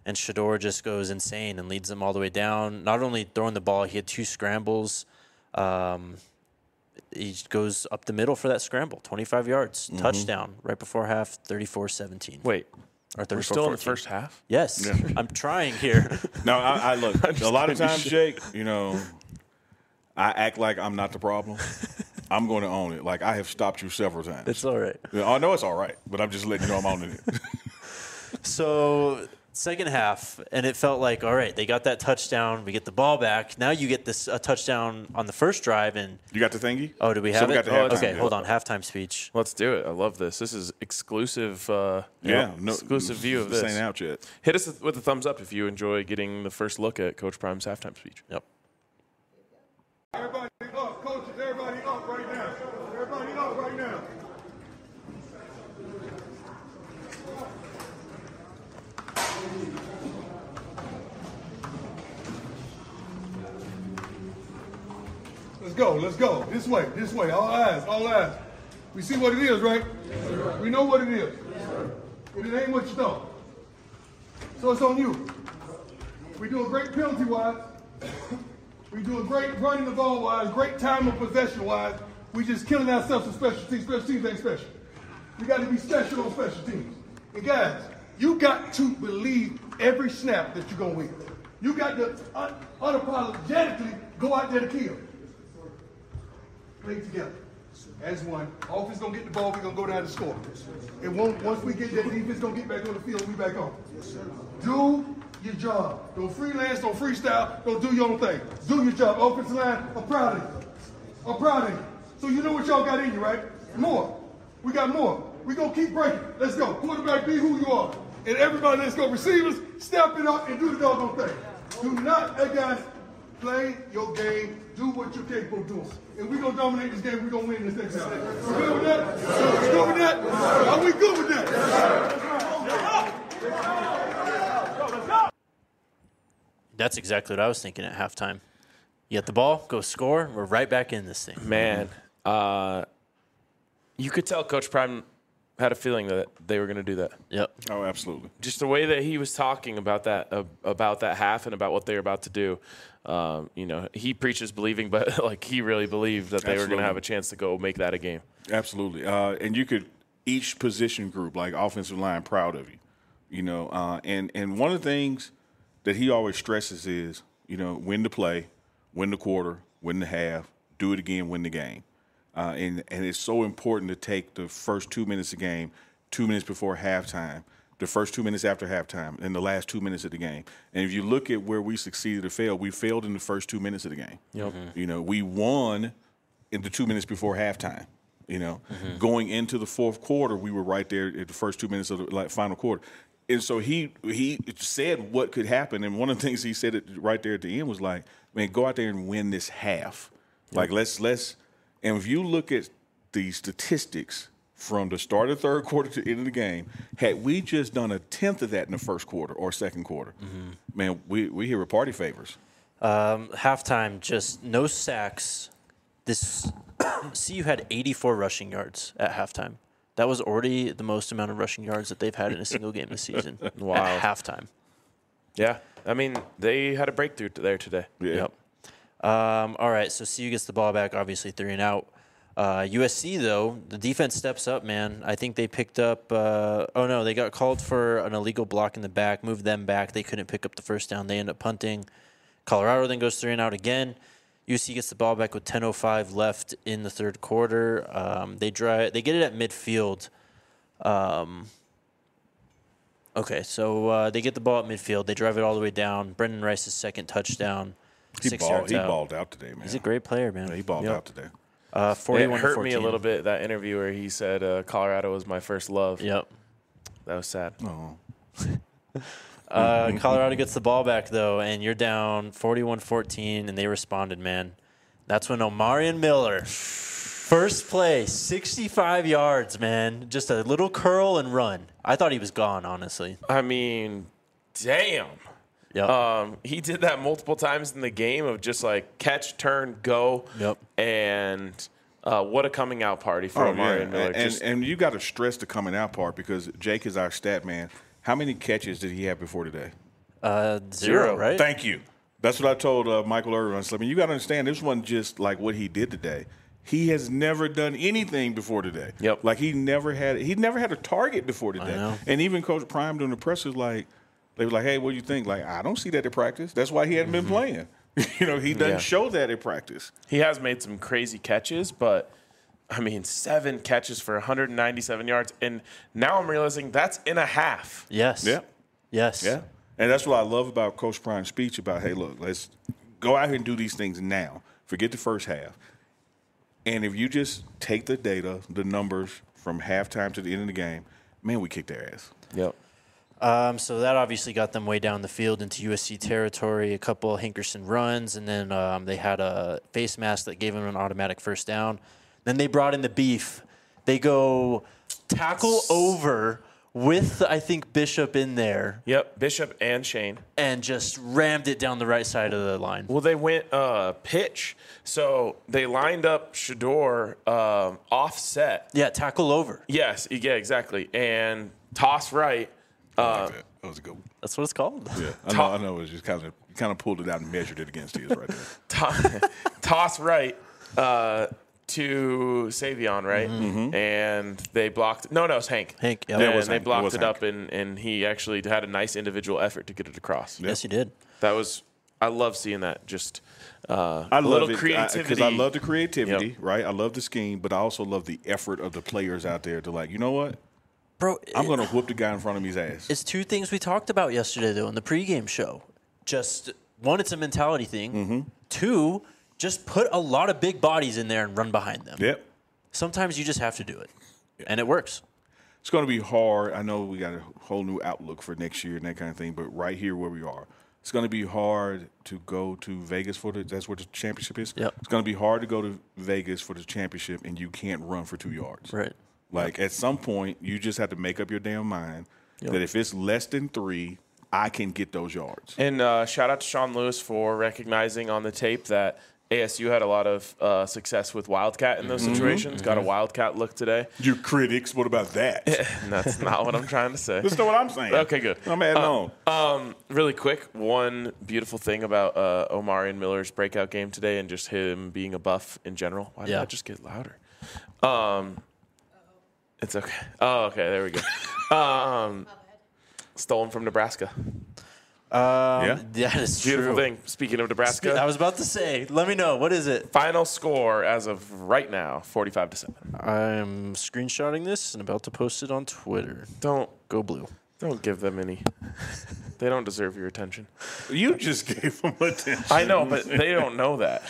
and Shedeur just goes insane and leads them all the way down. Not only throwing the ball, he had 2 scrambles. He goes up the middle for that scramble, 25 yards, touchdown right before half, 34-17. Wait, or 34-14. we're still in the first half? Yes, yeah. I'm trying here. No, I look. A lot of times, Jake, I act like I'm not the problem. I'm going to own it. Like, I have stopped you several times. It's all right. I know it's all right, but I'm just letting you know I'm owning it. So, second half, and it felt like, all right, they got that touchdown. We get the ball back. Now you get this touchdown on the first drive. And you got the thingy? Oh, do we have it? Okay, yeah. hold on. Halftime speech. Let's do it. I love this. This is exclusive. Exclusive view of this. This ain't out yet. Hit us with a thumbs up if you enjoy getting the first look at Coach Prime's halftime speech. Yep. Everybody up, coaches, everybody up right now. Everybody up right now. Let's go. This way, all eyes. We see what it is, right? We know what it is. But it ain't what you thought. So it's on you. We doing great penalty-wise. We doing great running the ball-wise, great time of possession-wise. We just killing ourselves in special teams. Special teams ain't special. We got to be special on special teams. And guys, you got to believe every snap that you're going to win. You got to unapologetically go out there to kill. Play together as one. Offense going to get the ball, we're going to go down to score. It won't, once we get that defense going to get back on the field, we back on. Do your job. Don't freelance, don't freestyle, don't do your own thing. Do your job. Offensive line, I'm proud of you. So you know what y'all got in you, right? More. We got more. We're going to keep breaking. Let's go. Quarterback, be who you are. And everybody, let's go. Receivers, step it up and do the doggone thing. Do not, hey guys, play your game. Do what you're capable of doing. And we're going to dominate this game. We're going to win this next time. We good with that? We good with that? Are we good with that? That's exactly what I was thinking at halftime. You get the ball, go score. We're right back in this thing. Man, you could tell Coach Prime had a feeling that they were going to do that. Yep. Oh, absolutely. Just the way that he was talking about that half and about what they were about to do. He preaches believing, but like he really believed that they were going to have a chance to go make that a game. Absolutely. And you could, each position group, like offensive line, proud of you. And one of the things that he always stresses is, win the play, win the quarter, win the half, do it again, win the game. And it's so important to take the first 2 minutes of the game, 2 minutes before halftime, the first 2 minutes after halftime, and the last 2 minutes of the game. And if you look at where we succeeded or failed, we failed in the first 2 minutes of the game. Yep. We won in the 2 minutes before halftime. Going into the fourth quarter, we were right there at the first 2 minutes of the final quarter. And so he said what could happen. And one of the things he said right there at the end was like, man, go out there and win this half. Yep. Like, let's and if you look at the statistics from the start of the third quarter to the end of the game, had we just done a tenth of that in the first quarter or second quarter, man, we here with party favors. Halftime, just no sacks. CU had 84 rushing yards at halftime. That was already the most amount of rushing yards that they've had in a single game this season. Wow. At halftime. Yeah. I mean, they had a breakthrough there today. Yeah. Yep. All right, so CU gets the ball back, obviously 3 and out. USC, though, the defense steps up, man. I think they picked up they got called for an illegal block in the back, moved them back. They couldn't pick up the first down. They end up punting. Colorado then goes 3 and out again. USC gets the ball back with 10:05 left in the third quarter. They get it at midfield. They get the ball at midfield. They drive it all the way down. Brendan Rice's second touchdown. He balled out today, man. He's a great player, man. Yeah, he balled out today. 41 It hurt me a little bit, that interview where he said Colorado was my first love. Yep. That was sad. Oh. Colorado gets the ball back, though, and you're down 41-14, and they responded, man. That's when Omarion Miller, first play, 65 yards, man. Just a little curl and run. I thought he was gone, honestly. I mean, damn. Yep. He did that multiple times in the game of just like catch, turn, go. Yep. And what a coming out party for Omarion Miller. And you got to stress the coming out part because Jake is our stat man. How many catches did he have before today? Zero, right? Thank you. That's what I told Michael Irvin. I said, I mean, you got to understand, this wasn't just like what he did today. He has never done anything before today. Yep. Like he never had a target before today. And even Coach Prime during the press was like, they were like, hey, what do you think? Like, I don't see that at practice. That's why he hadn't been playing. He doesn't show that at practice. He has made some crazy catches, but I mean, 7 catches for 197 yards. And now I'm realizing that's in a half. Yes. Yeah. Yes. Yeah. And that's what I love about Coach Prime's speech about, hey, look, let's go out here and do these things now. Forget the first half. And if you just take the data, the numbers from halftime to the end of the game, man, we kicked their ass. Yep. So that obviously got them way down the field into USC territory, a couple of Hinkerson runs, and then they had a face mask that gave them an automatic first down. Then they brought in the beef. They go tackle over with, I think, Bishop in there. Yep, Bishop and Shane. And just rammed it down the right side of the line. Well, they went pitch. So they lined up Shador offset. Yeah, tackle over. Yes, yeah, exactly. And toss right. I like that. That was a good one. That's what it's called. Yeah, I know. It was just kind of pulled it out and measured it against his right there. Toss right to Savion, right? Mm-hmm. And they blocked. No, it was Hank. Hank, yeah. And they blocked it up, and he actually had a nice individual effort to get it across. Yes, he did. That was. I love seeing that. Just I love it creativity. because I love the creativity, Yep. right? I love the scheme, but I also love the effort of the players out there to like, you know what? Bro, I'm going to whoop the guy in front of me's ass. It's 2 things we talked about yesterday, though, in the pregame show. Just, 1, it's a mentality thing. Mm-hmm. 2, just put a lot of big bodies in there and run behind them. Yep. Sometimes you just have to do it, and it works. It's going to be hard. I know we got a whole new outlook for next year and that kind of thing, but right here where we are, it's going to be hard to go to Vegas that's where the championship is. Yep. It's going to be hard to go to Vegas for the championship and you can't run for 2 yards. Right. Like at some point, you just have to make up your damn mind that if it's less than 3, I can get those yards. And shout out to Sean Lewis for recognizing on the tape that ASU had a lot of success with Wildcat in those situations. Got a Wildcat look today. You critics, what about that? That's not what I'm trying to say. Listen to what I'm saying. Okay, good. I'm adding on. Really quick, one beautiful thing about Omarion Miller's breakout game today and just him being a buff in general. Why did I just get louder? It's okay. Oh, okay. There we go. Stolen from Nebraska. That is Beautiful true. thing. Speaking of Nebraska, I was about to say, let me know. What is it? final score as of right now, 45-7. I'm screenshotting this and about to post it on Twitter. Don't Go Blue. give them any. They don't deserve your attention. You just gave them attention. I know, but they don't know that.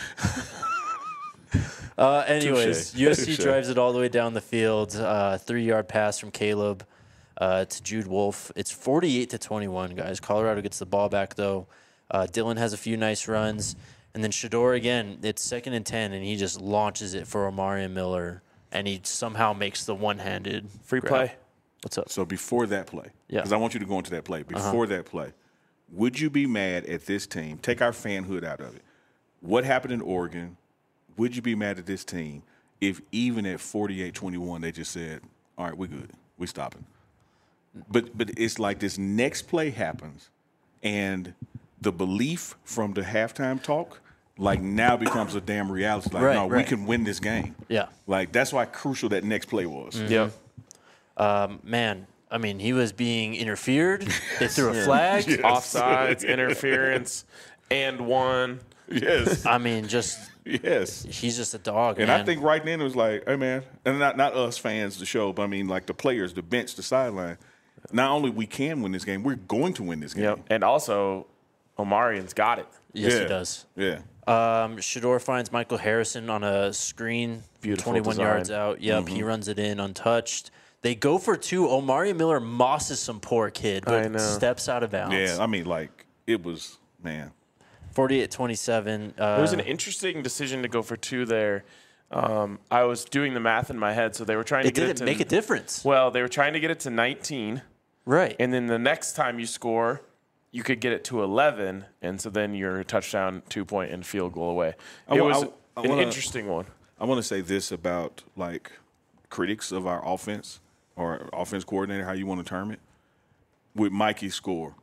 Anyways, Touché. USC Touché. drives it all the way down the field. 3-yard pass from Caleb to Jude Wolfe. It's 48-21, guys. Colorado gets the ball back, though. Dylan has a few nice runs. And then Shador, again, it's 2nd and 10, and he just launches it for Omarion Miller, and he somehow makes the one-handed Free grab. play. What's up? So before that play, Yeah. because I want you to go into that play. Before that play, would you be mad at this team? Take our fanhood out of it. What happened in Oregon? Would you be mad at this team if even at 48-21 they just said, all right, we're good. We're stopping. But it's like this next play happens, and the belief from the halftime talk like now becomes a damn reality. Like, we can win this game. Yeah. Like that's why crucial that next play was. Yep. Man, I mean, he was being interfered. They threw a flag. Offsides, interference, and one. Yes. I mean, just Yes. he's just a dog, And man. I think right then it was like, hey, man, and not us fans, the show, but I mean like the players, the bench, the sideline. Not only we can win this game, we're going to win this game. Yep. And also, Omarion's got it. yes, Yeah. he does. Yeah. Shador finds Michael Harrison on a screen, Beautiful 21 design. yards out. Yep, he runs it in untouched. They go for 2. Omarion Miller mosses some poor kid, I but know. steps out of bounds. Yeah. I mean, like, it was, man. 48-27. It was an interesting decision to go for 2 there. I was doing the math in my head, so they were trying to It get it didn't to make a difference. Well, they were trying to get it to 19, Right. and then the next time you score, you could get it to 11, and so then you're a touchdown, 2-point, and field goal away. It was an interesting one. I want to say this about, like, critics of our offense or offense coordinator, how you want to term it. With Mikey's score,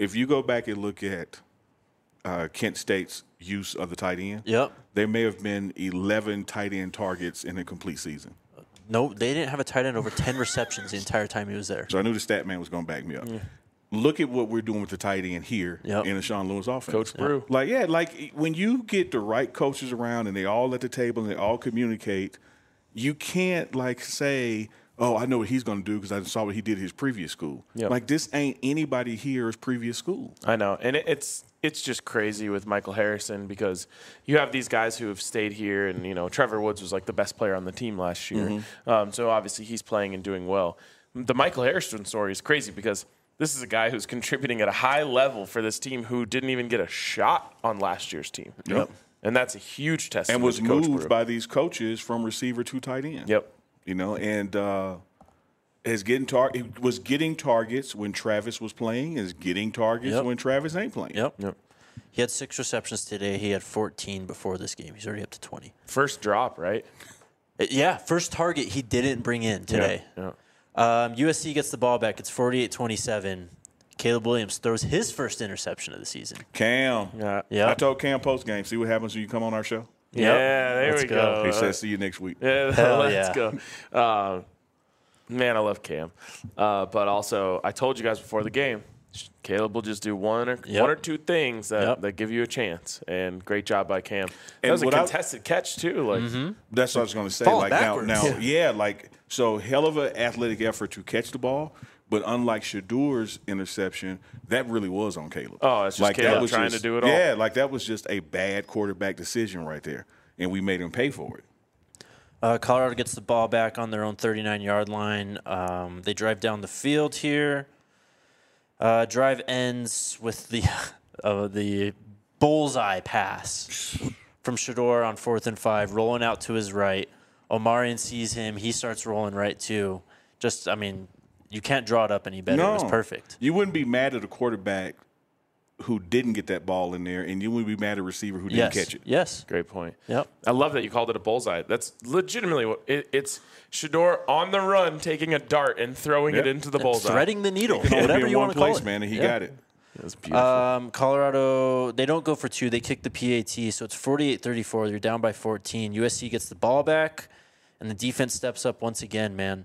if you go back and look at Kent State's use of the tight end, Yep. there may have been 11 tight end targets in a complete season. No, they didn't have a tight end over 10 receptions the entire time he was there. So I knew the stat man was going to back me up. Look at what we're doing with the tight end here in the Sean Lewis offense. Coach Brew. Like when you get the right coaches around and they all at the table and they all communicate, you can't say, oh, I know what he's going to do because I saw what he did at his previous school. Yep. Like this ain't anybody here's previous school. I know, and it's just crazy with Michael Harrison because you have these guys who have stayed here, and Trevor Woods was like the best player on the team last year, so obviously he's playing and doing well. The Michael Harrison story is crazy because this is a guy who's contributing at a high level for this team who didn't even get a shot on last year's team. Yep. And that's a huge testament. And was to Coach moved Brew. by these coaches from receiver to tight end. Yep. And was getting targets when Travis was playing, is getting targets when Travis ain't playing. Yep. He had 6 receptions today. He had 14 before this game. He's already up to 20. First drop, right? Yeah, first target he didn't bring in today. Yeah. USC gets the ball back. It's 48-27. Caleb Williams throws his first interception of the season. Cam. Yeah. I told Cam post-game, see what happens when you come on our show? Yeah, there Let's we go. He said, see you next week. Yeah, Hell let's yeah. go. Man, I love Cam. But also, I told you guys before the game, Caleb will just do one or two things that give you a chance. And great job by Cam. That was a contested catch, too. That's what I was going to say. Falling backwards. So hell of an athletic effort to catch the ball. But unlike Shadour's interception, that really was on Caleb. Oh, it's just Caleb trying to do it all. Yeah, that was just a bad quarterback decision right there. And we made him pay for it. Colorado gets the ball back on their own 39-yard line. They drive down the field here. Drive ends with the bullseye pass from Shador on 4th and 5, rolling out to his right. Omarion sees him. He starts rolling right too. You can't draw it up any better. It was perfect. You wouldn't be mad at a quarterback who didn't get that ball in there, and you wouldn't be mad at a receiver who didn't catch it. Yes. Great point. Yep. I love that you called it a bullseye. That's legitimately what it's Shador on the run, taking a dart and throwing it into the bullseye. Threading the needle, It whatever be in you one want to call place, it. man, and he got it. It was beautiful. Colorado, they don't go for 2. They kick the PAT, so it's 48-34. They're down by 14. USC gets the ball back, and the defense steps up once again, man.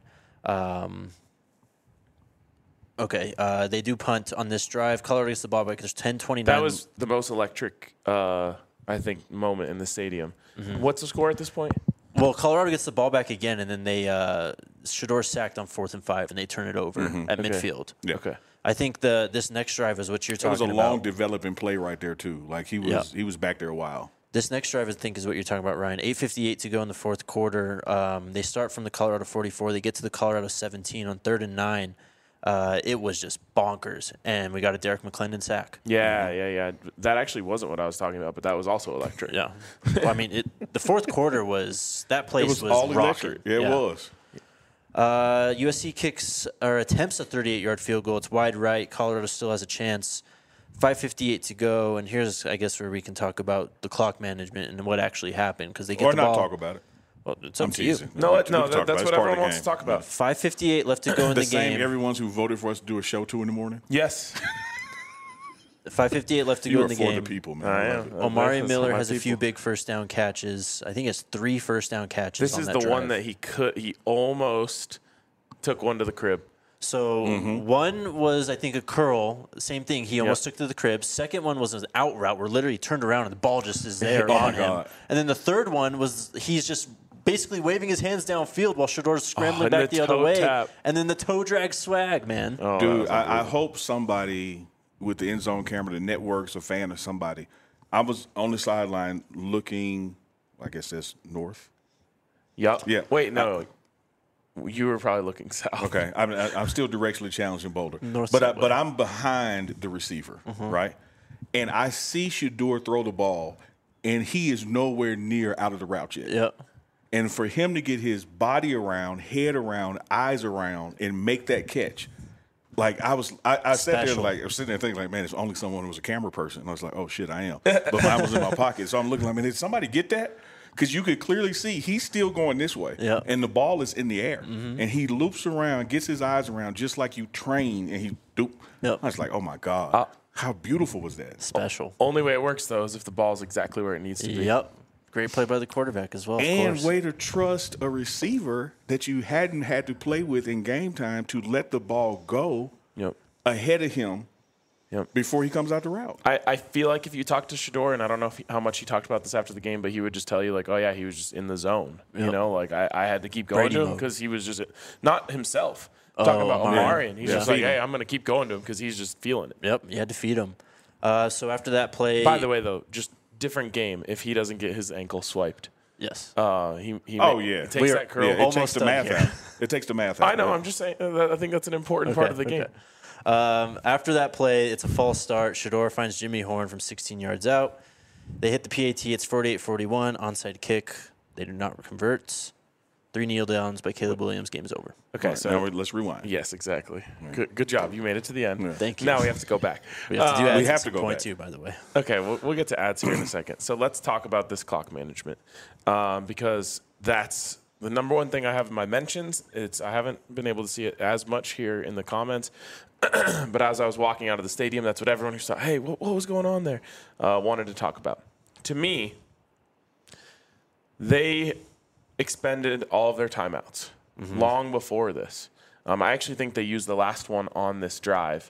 They do punt on this drive. Colorado gets the ball back. There's 10-29. That was the most electric, I think, moment in the stadium. What's the score at this point? Well, Colorado gets the ball back again, and then they Shador sacked on 4th and 5, and they turn it over at midfield. Yeah. Okay. I think this next drive is what you're talking It about. was a long developing play right there, too. Like, he was back there a while. This next drive, I think, is what you're talking about, Ryan. 8:58 to go in the fourth quarter. They start from the Colorado 44. They get to the Colorado 17 on 3rd and 9. It was just bonkers, and we got a Derek McClendon sack. Yeah. That actually wasn't what I was talking about, but that was also electric. Yeah. Well, the fourth quarter was – that place was all rocking. electric. Yeah, it was. USC attempts a 38-yard field goal. It's wide right. Colorado still has a chance. 5:58 to go, and here's, I guess, where we can talk about the clock management and what actually happened because they get the ball. Or not talk about it. Well, it's up I'm to you. teasing. No, We can talk about that's it. what It's part of everyone the wants to game. talk about. 5:58 left to go in the Same game. everyone's who voted for us to do a show 2 in the morning. Yes. 5:58 left to You go are in the for game. the people, man. I love am. it. Omari That's Miller my has a few people. big first down catches. I think he has 3 first down catches. This on is that the one drive. that he almost took one to the crib. So one was, I think, a curl. Same thing. He almost took to the crib. Second one was an out route where literally he turned around and the ball just is there Oh, on my him. God. And then the third one was he's just basically waving his hands downfield while Shador's scrambling and back the the other toe way. tap. And then the toe drag swag, man. Oh, Dude, I hope somebody with the end zone camera, the networks, a fan or somebody. I was on the sideline looking, I guess that's north. Yep. Yeah. Wait, no. You were probably looking south. Okay, I'm still directionally challenged in Boulder, North but Subway. I'm behind the receiver, right? And I see Shador throw the ball, and he is nowhere near out of the route yet. Yep. And for him to get his body around, head around, eyes around, and make that catch, like I sat there Special. like I was sitting there thinking like, man, it's only someone who was a camera person. And I was like, oh shit, I am. But mine was in my pocket, so I'm looking like, man, did somebody get that? Because you could clearly see he's still going this way, and the ball is in the air, and he loops around, gets his eyes around just like you train, and he doop. Yep. I was like, oh my god. How beautiful was that? Special. Only way it works, though, is if the ball's exactly where it needs to be. Yep. Great play by the quarterback as well. And of course. way to trust a receiver that you hadn't had to play with in game time to let the ball go Yep. ahead of him Yep. before he comes out the route. I feel like if you talk to Shedeur, and I don't know how much he talked about this after the game, but he would just tell you, like, oh, yeah, he was just in the zone. You know, like I had to keep going Brady to him mode. because he was just not himself. Talking about Omari, and he's just like, Feed him. hey, I'm going to keep going to him because he's just feeling it. Yep. You had to feed him. So after that play. By the way, though, just different game if he doesn't get his ankle swiped. Yes. He Yeah. takes that curl. Yeah, it almost takes the done math here. out. It takes the math out. I know. right? I'm just saying. I think that's an important part of the game. After that play, it's a false start. Shedeur finds Jimmy Horn from 16 yards out. They hit the PAT. It's 48-41. Onside kick. They do not convert. 3 kneel downs by Caleb Williams. Game is over. Okay, Right, so now let's rewind. yes, exactly. Good job. You made it to the end. Thank you. Now we have to go back. We have to do ads we have at to some go point back. too, by the way. Okay, we'll get to ads here in a second. So let's talk about this clock management because that's the number one thing I have in my mentions. I haven't been able to see it as much here in the comments, but as I was walking out of the stadium, that's what everyone who saw, hey, what was going on there, wanted to talk about. To me, they expended all of their timeouts long before this. I actually think they used the last one on this drive.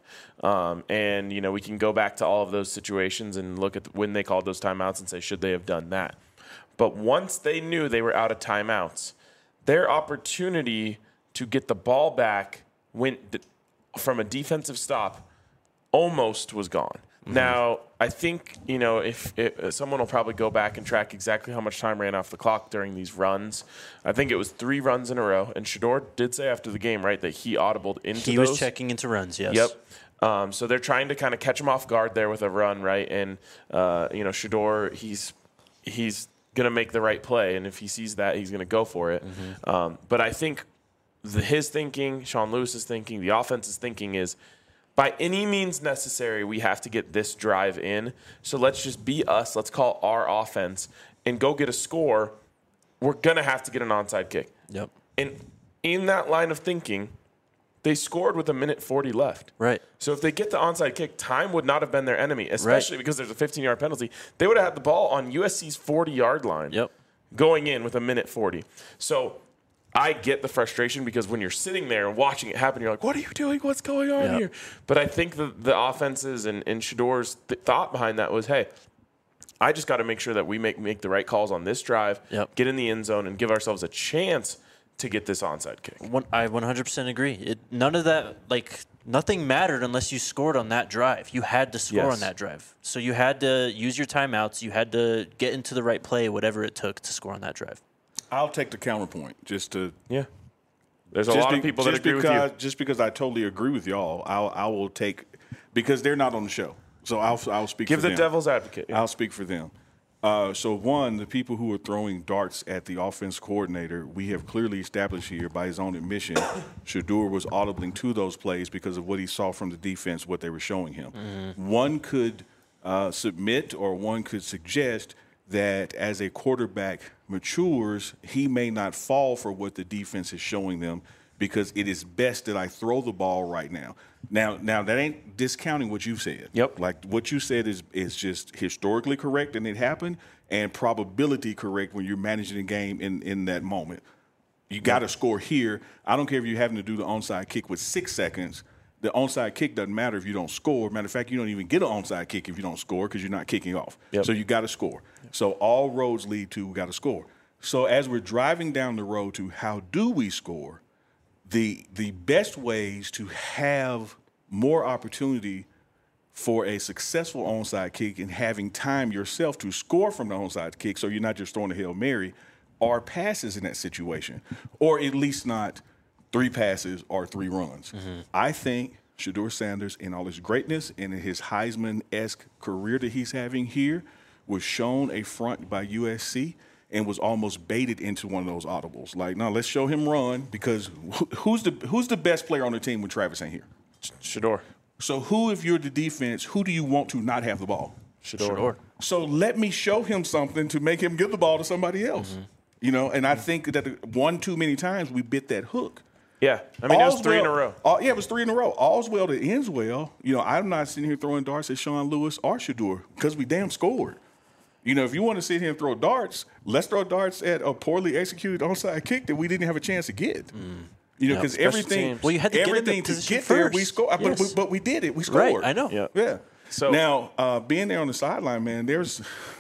And, you know, we can go back to all of those situations and look at when they called those timeouts and say, should they have done that? But once they knew they were out of timeouts, their opportunity to get the ball back from a defensive stop almost was gone. Now, I think, you know, if someone will probably go back and track exactly how much time ran off the clock during these runs. I think it was 3 runs in a row. And Shedeur did say after the game, right, that he audibled into He those. was checking into runs, yes. Yep. So they're trying to kind of catch him off guard there with a run, right? And, you know, Shedeur, he's going to make the right play. And if he sees that, he's going to go for it. But I think his thinking, Sean Lewis's thinking, the offense's thinking is, by any means necessary, we have to get this drive in. So let's just be us. Let's call our offense and go get a score. We're going to have to get an onside kick. Yep. And in that line of thinking, they scored with 1:40 left. Right. So if they get the onside kick, time would not have been their enemy, especially because there's a 15-yard penalty. They would have had the ball on USC's 40-yard line going in with 1:40. So I get the frustration because when you're sitting there and watching it happen, you're like, what are you doing? What's going on here? But I think the offenses and Shedeur's thought behind that was, hey, I just got to make sure that we make the right calls on this drive, get in the end zone, and give ourselves a chance to get this onside kick. I 100% agree. None of that, nothing mattered unless you scored on that drive. You had to score on that drive. So you had to use your timeouts. You had to get into the right play, whatever it took to score on that drive. I'll take the counterpoint just to. Yeah. There's a lot of people that agree with you. Just because I totally agree with y'all, I will take, because they're not on the show. So I'll speak Give for them. the devil's advocate. I'll speak for them. So one, the people who are throwing darts at the offense coordinator, we have clearly established here by his own admission, Shedeur was audibling to those plays because of what he saw from the defense, what they were showing him. One could submit or one could suggest that as a quarterback matures, he may not fall for what the defense is showing them because it is best that I throw the ball right now. Now that ain't discounting what you said. Yep. Like what you said is just historically correct and it happened, and probability correct when you're managing a game in that moment. You got to score here. I don't care if you're having to do the onside kick with 6 seconds. The onside kick doesn't matter if you don't score. Matter of fact, you don't even get an onside kick if you don't score because you're not kicking off. So you got to score. So all roads lead to got to score. So as we're driving down the road to how do we score, the best ways to have more opportunity for a successful onside kick and having time yourself to score from the onside kick so you're not just throwing a Hail Mary are passes in that situation, or at least not 3 passes or 3 runs. I think Shedeur Sanders, in all his greatness and in his Heisman-esque career that he's having here, was shown a front by USC and was almost baited into one of those audibles. Like, no, let's show him run because who's the best player on the team when Travis ain't here? Shedeur. So who, if you're the defense, who do you want to not have the ball? Shedeur. So let me show him something to make him give the ball to somebody else. You know, and I think that one too many times we bit that hook. Yeah, I mean, it was 3 in a row. Yeah, it was 3 in a row. All's well that ends well. I'm not sitting here throwing darts at Sean Lewis or Shedeur because we damn scored. If you want to sit here and throw darts, let's throw darts at a poorly executed onside kick that we didn't have a chance to get. Because everything, well, you had to get in the to position get there, first. we scored. Yes. But we did it. We scored. Right, I know. Yeah. So now, being there on the sideline, man, there's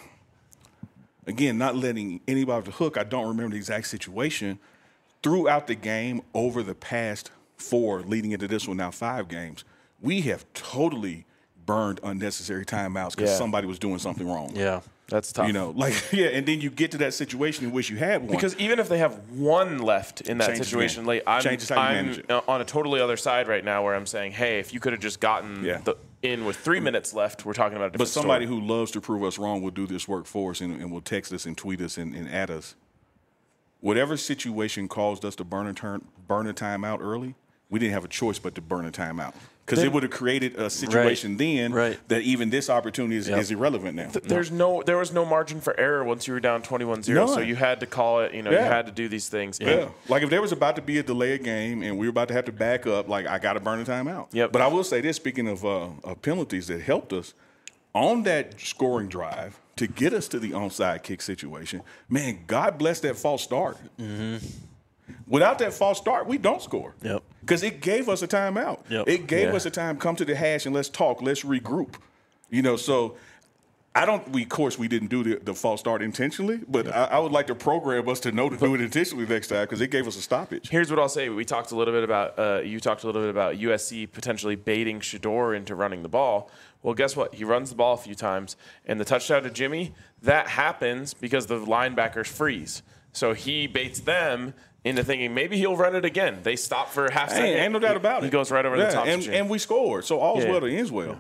again not letting anybody off the hook. I don't remember the exact situation throughout the game over the past 4, leading into this one now 5 games. We have totally burned unnecessary timeouts because somebody was doing something wrong. Yeah. That's tough. And then you get to that situation in which you had one. Because even if they have one left in that situation late, I'm on a totally other side right now where I'm saying, hey, if you could have just gotten in with 3 minutes left, we're talking about a different But somebody who loves to prove us wrong will do this work for us and will text us and tweet us and add us. Whatever situation caused us to burn a timeout early, we didn't have a choice but to burn a timeout. Because it would have created a situation that even this opportunity is irrelevant now. There was no margin for error once you were down 21-0, so you had to call it. You had to do these things. Yeah, like if there was about to be a delayed game and we were about to have to back up, like I got to burn a timeout. Yep. But I will say this: speaking of penalties that helped us on that scoring drive to get us to the onside kick situation, man, God bless that false start. Mm-hmm. Without that false start, we don't score. Yep. Because it gave us a timeout. Yep. It gave us a time, come to the hash and let's talk, let's regroup. So of course we didn't do the false start intentionally, but I would like to program us to know to do it intentionally next time because it gave us a stoppage. Here's what I'll say. We talked a little bit about, you talked a little bit about USC potentially baiting Shedeur into running the ball. Well, guess what? He runs the ball a few times, and the touchdown to Jimmy, that happens because the linebackers freeze. So he baits them into thinking maybe he'll run it again. They stop for a half second. Ain't no doubt about it. He goes right over the top. And we scored. So all's well that ends well.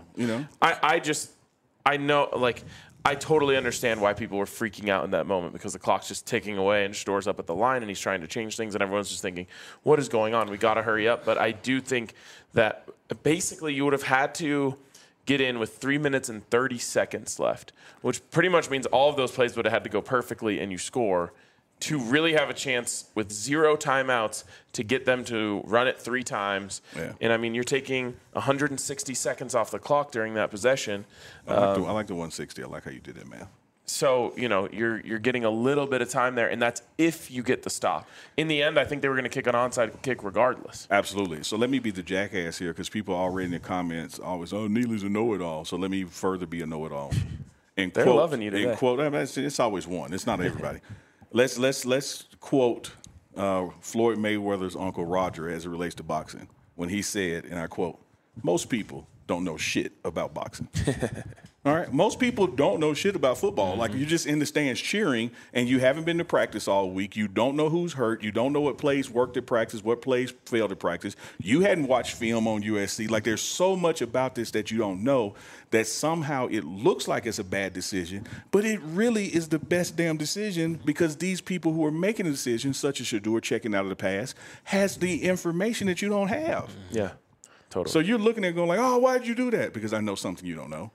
I know, I totally understand why people were freaking out in that moment because the clock's just ticking away and Shedeur's up at the line and he's trying to change things and everyone's just thinking, what is going on? We got to hurry up. But I do think that basically you would have had to get in with 3 minutes and 30 seconds left, which pretty much means all of those plays would have had to go perfectly and you score to really have a chance with 0 timeouts to get them to run it 3 times. Yeah. And, I mean, you're taking 160 seconds off the clock during that possession. I like the 160. I like how you did that, man. So, you're getting a little bit of time there, and that's if you get the stop. In the end, I think they were going to kick an onside kick regardless. Absolutely. So let me be the jackass here because people already in the comments always, Neely's a know-it-all. So let me further be a know-it-all. And they're loving you today. It's always one. It's not everybody. Let's quote Floyd Mayweather's uncle Roger as it relates to boxing when he said, and I quote, "Most people don't know shit about boxing." All right, most people don't know shit about football. Mm-hmm. Like you're just in the stands cheering, and you haven't been to practice all week. You don't know who's hurt. You don't know what plays worked at practice, what plays failed at practice. You hadn't watched film on USC. Like there's so much about this that you don't know that somehow it looks like it's a bad decision, but it really is the best damn decision because these people who are making the decisions, such as Shedeur checking out of the pass, has the information that you don't have. Yeah, totally. So you're looking at it going like, oh, why did you do that? Because I know something you don't know.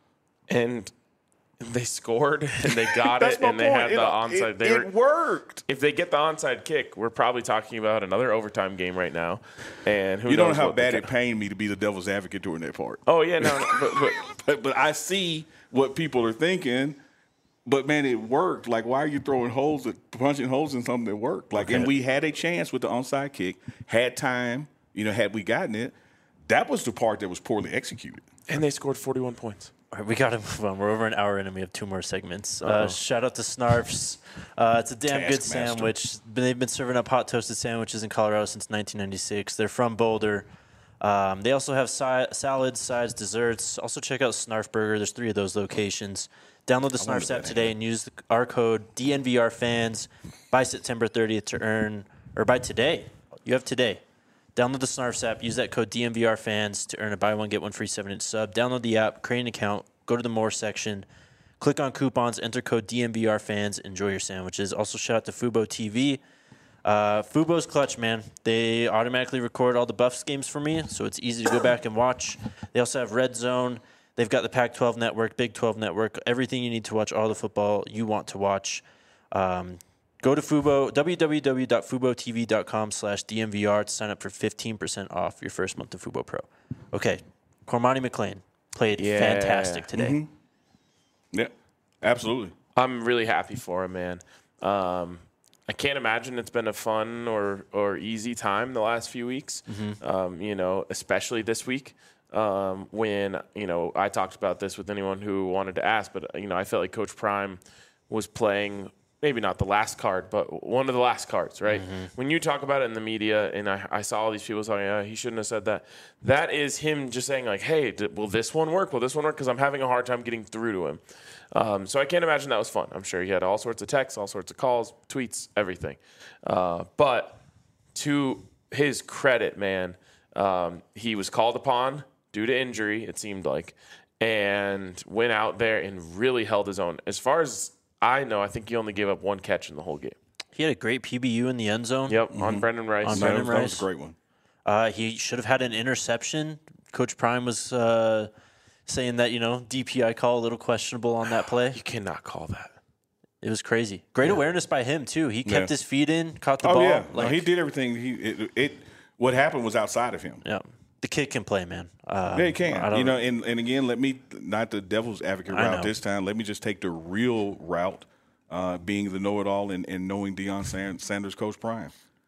And they scored, and they got it, and they had the onside. It worked. If they get the onside kick, we're probably talking about another overtime game right now. And who you don't knows know how bad it pained me to be the devil's advocate during that part. Oh yeah, no, but I see what people are thinking. But man, it worked. Like, why are you punching holes in something that worked? Like, and we had a chance with the onside kick. Had time, had we gotten it, that was the part that was poorly executed. And they scored 41 points. All right, we got to move on. We're over an hour in and we have 2 more segments. Shout out to Snarfs. It's a damn good sandwich. They've been serving up hot toasted sandwiches in Colorado since 1996. They're from Boulder. They also have salads, sides, desserts. Also check out Snarf Burger. There's 3 of those locations. Download the Snarfs app today and use our code DNVRFans by September 30th to earn, or by today. You have today. Download the Snarfs app. Use that code DNVRFans to earn a buy one, get one free 7-inch sub. Download the app, create an account, go to the More section, click on coupons, enter code DNVRFans, enjoy your sandwiches. Also, shout out to Fubo TV. Fubo's clutch, man. They automatically record all the Buffs games for me, so it's easy to go back and watch. They also have Red Zone. They've got the Pac-12 network, Big 12 network, everything you need to watch all the football you want to watch. Go to Fubo, www.fubotv.com/DMVR to sign up for 15% off your first month of Fubo Pro. Okay, Cormani McClain played fantastic today. Mm-hmm. Yeah, absolutely. I'm really happy for him, man. I can't imagine it's been a fun or easy time the last few weeks, especially this week. When, I talked about this with anyone who wanted to ask, but, I felt like Coach Prime was playing maybe not the last card, but one of the last cards, right? Mm-hmm. When you talk about it in the media, and I saw all these people saying, he shouldn't have said that. That is him just saying, like, hey, will this one work? Will this one work? Because I'm having a hard time getting through to him. So I can't imagine that was fun. I'm sure he had all sorts of texts, all sorts of calls, tweets, everything. But to his credit, man, he was called upon due to injury, it seemed like, and went out there and really held his own. As far as I know, I think he only gave up one catch in the whole game. He had a great PBU in the end zone. Yep, on Brendan Rice. That was a great one. He should have had an interception. Coach Prime was saying that, DPI call a little questionable on that play. You cannot call that. It was crazy. Great awareness by him, too. He kept his feet in, caught the ball. Yeah. No, he did everything. What happened was outside of him. Yeah. The kid can play, man. Yeah, he can. And again, let me, not the devil's advocate route this time, let me just take the real route, being the know-it-all and knowing Deion Sanders, Coach Prime.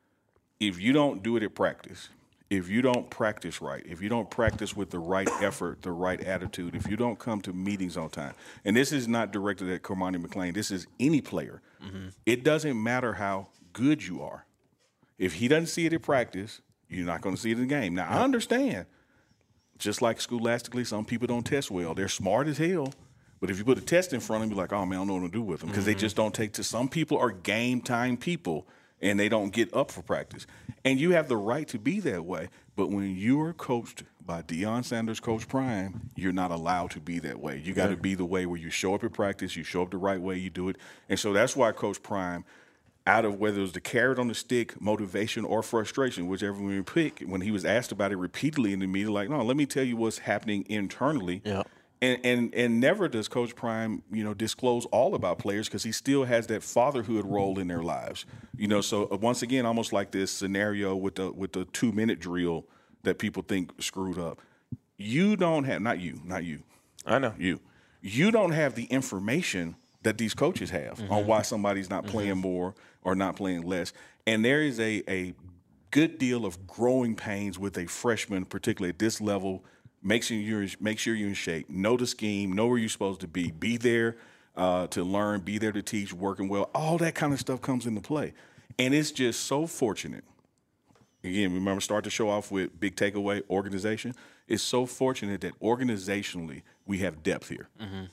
If you don't do it at practice, if you don't practice right, if you don't practice with the right effort, the right attitude, if you don't come to meetings on time, and this is not directed at Cormani McClain, this is any player. Mm-hmm. It doesn't matter how good you are. If he doesn't see it at practice, you're not going to see it in the game. Now, I understand, just like scholastically, some people don't test well. They're smart as hell, but if you put a test in front of them, you're like, oh, man, I don't know what to do with them because they just don't take to. Some people are game-time people, and they don't get up for practice. And you have the right to be that way, but when you are coached by Deion Sanders, Coach Prime, you're not allowed to be that way. You got to be the way where you show up at practice, you show up the right way, you do it. And so that's why Coach Prime, out of whether it was the carrot on the stick, motivation, or frustration, whichever one you pick, when he was asked about it repeatedly in the media, like, no, let me tell you what's happening internally. Yeah. And never does Coach Prime, disclose all about players because he still has that fatherhood role in their lives. So once again, almost like this scenario with the 2-minute drill that people think screwed up. You don't have, not you. I know. You don't have the information that these coaches have on why somebody's not playing more or not playing less. And there is a good deal of growing pains with a freshman, particularly at this level. Make sure you're in shape, know the scheme, know where you're supposed to be there to learn, be there to teach, working well. All that kind of stuff comes into play. And it's just so fortunate. Again, remember, start the show off with big takeaway, organization. It's so fortunate that organizationally we have depth here.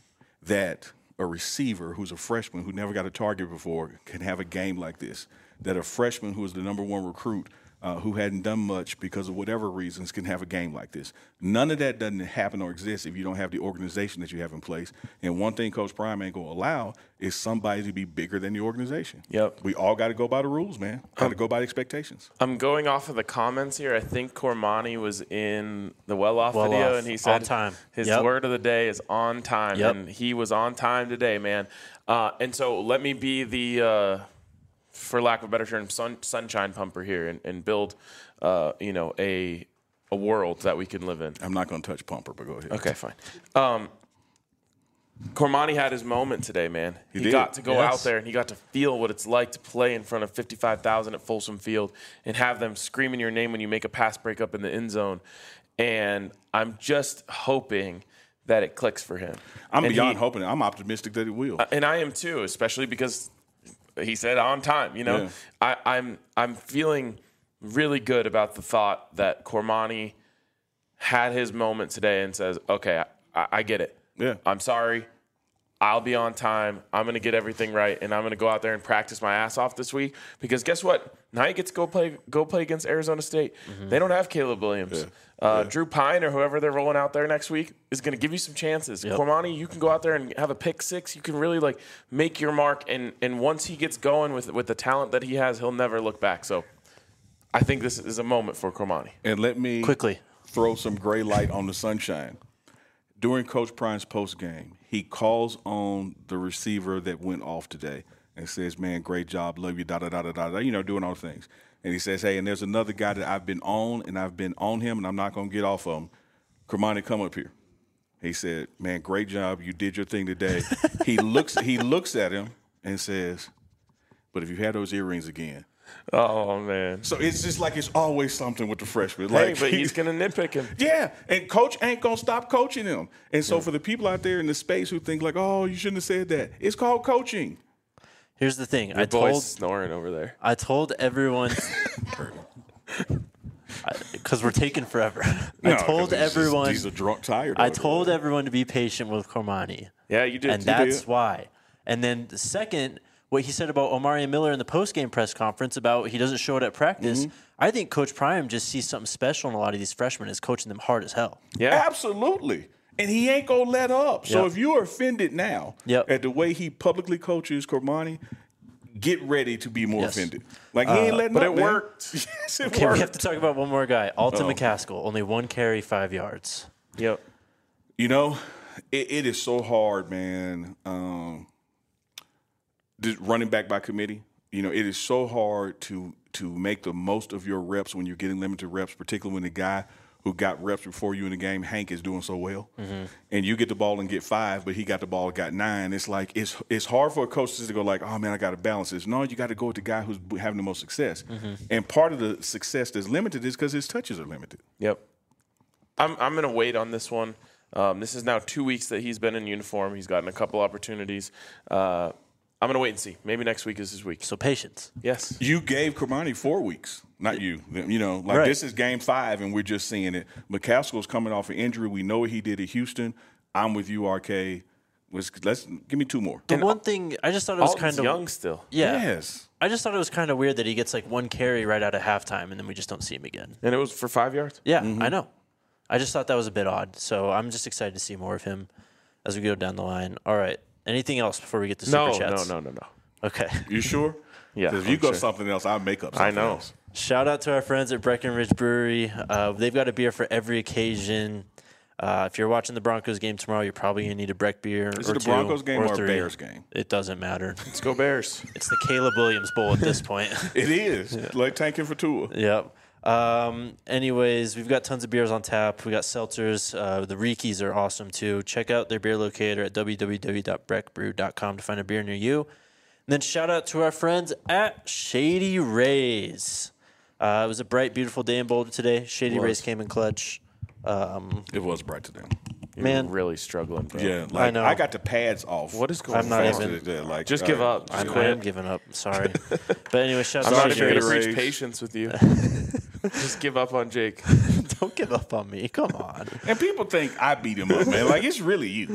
That a receiver who's a freshman who never got a target before can have a game like this. That a freshman who is the number one recruit who hadn't done much because of whatever reasons can have a game like this. None of that doesn't happen or exist if you don't have the organization that you have in place. And one thing Coach Prime ain't going to allow is somebody to be bigger than the organization. Yep. We all got to go by the rules, man. Got to go by the expectations. I'm going off of the comments here. I think Cormani was in the well-off video, and he said on time. His word of the day is on time, and he was on time today, man. And so let me be the for lack of a better term, sunshine pumper here and build, a world that we can live in. I'm not going to touch pumper, but go ahead. Okay, fine. Cormani had his moment today, man. He got to go out there and he got to feel what it's like to play in front of 55,000 at Folsom Field and have them screaming your name when you make a pass breakup in the end zone. And I'm just hoping that it clicks for him. I'm beyond hoping. I'm optimistic that it will. And I am too, especially because he said on time, I'm feeling really good about the thought that Cormani had his moment today and says, okay, I get it. Yeah. I'm sorry. I'll be on time. I'm going to get everything right, and I'm going to go out there and practice my ass off this week. Because guess what? Now you get to go play against Arizona State. They don't have Caleb Williams. Drew Pine or whoever they're rolling out there next week is going to give you some chances. Cormani, you can go out there and have a pick six. You can really make your mark, and once he gets going with the talent that he has, he'll never look back. So I think this is a moment for Cormani. And let me quickly throw some gray light on the sunshine. During Coach Prime's post game, he calls on the receiver that went off today and says, man, great job, love you, da-da-da-da-da, doing all the things. And he says, hey, and there's another guy that I've been on, and I've been on him, and I'm not going to get off of him. Kermani, come up here. He said, man, great job. You did your thing today. He looks at him and says, but if you had those earrings again. Oh, man. So it's just like it's always something with the freshman. Hey, Like, but he's going to nitpick him. yeah, and coach ain't going to stop coaching him. And so for the people out there in the space who think like, oh, you shouldn't have said that, it's called coaching. Here's the thing. Your boy's snoring over there. I told everyone because we're taking forever. I told everyone. He's a drunk, tired. I told everyone to be patient with Kormani. Yeah, you did. And that's why. And then the second, what he said about Omari Miller in the postgame press conference about he doesn't show it at practice. I think Coach Prime just sees something special in a lot of these freshmen, is coaching them hard as hell. Yeah, absolutely. And he ain't gonna let up. So if you're offended now at the way he publicly coaches Kormani, get ready to be more offended. Like he ain't letting but up. But it worked. Yes, it Okay, worked. we have to talk about one more guy. Alton McCaskill, only 1 carry, 5 yards. Yep. It is so hard, man. Running back by committee. It is so hard to make the most of your reps when you're getting limited reps, particularly when the guy who got reps before you in the game, Hank, is doing so well. And you get the ball and get 5, but he got the ball and got 9. It's like it's hard for a coach to go like, oh, man, I got to balance this. No, you got to go with the guy who's having the most success. And part of the success that's limited is because his touches are limited. Yep. I'm going to wait on this one. This is now 2 weeks that he's been in uniform. He's gotten a couple opportunities. I'm going to wait and see. Maybe next week is his week. So patience. Yes. You gave Kormani 4 weeks, not you. This is game 5, and we're just seeing it. McCaskill's coming off an injury. We know what he did at Houston. I'm with you, RK. Let's give me 2 more. The one thing, I just thought it was kind of young still. Yeah. Yes. I just thought it was kind of weird that he gets like 1 carry right out of halftime, and then we just don't see him again. And it was for 5 yards? Yeah, I know. I just thought that was a bit odd. So I'm just excited to see more of him as we go down the line. All right. Anything else before we get to Super Chats? No. Okay. You sure? Yeah. Because if you go something else, I'll make up something else. Shout out to our friends at Breckenridge Brewery. They've got a beer for every occasion. If you're watching the Broncos game tomorrow, you're probably going to need a Breck beer. Is it a Broncos game or a Bears game? It doesn't matter. Let's go Bears. It's the Caleb Williams Bowl at this point. It is. Like tanking for Tua. Yep. Anyways, we've got tons of beers on tap. We got seltzers. The Rikis are awesome too. Check out their beer locator at www.breckbrew.com to find a beer near you. And then shout out to our friends at Shady Rays. It was a bright, beautiful day in Boulder today. Shady Rays came in clutch. It was bright today. You're really struggling, bro. Yeah, I know. I got the pads off. What is going on? I'm not even. Like, just give up. I am giving up. Sorry. But anyway, shout I'm out not to even going to Shady Rays. preach patience with you. Just give up on Jake. Don't give up on me. Come on. And people think I beat him up, man. Like, it's really you.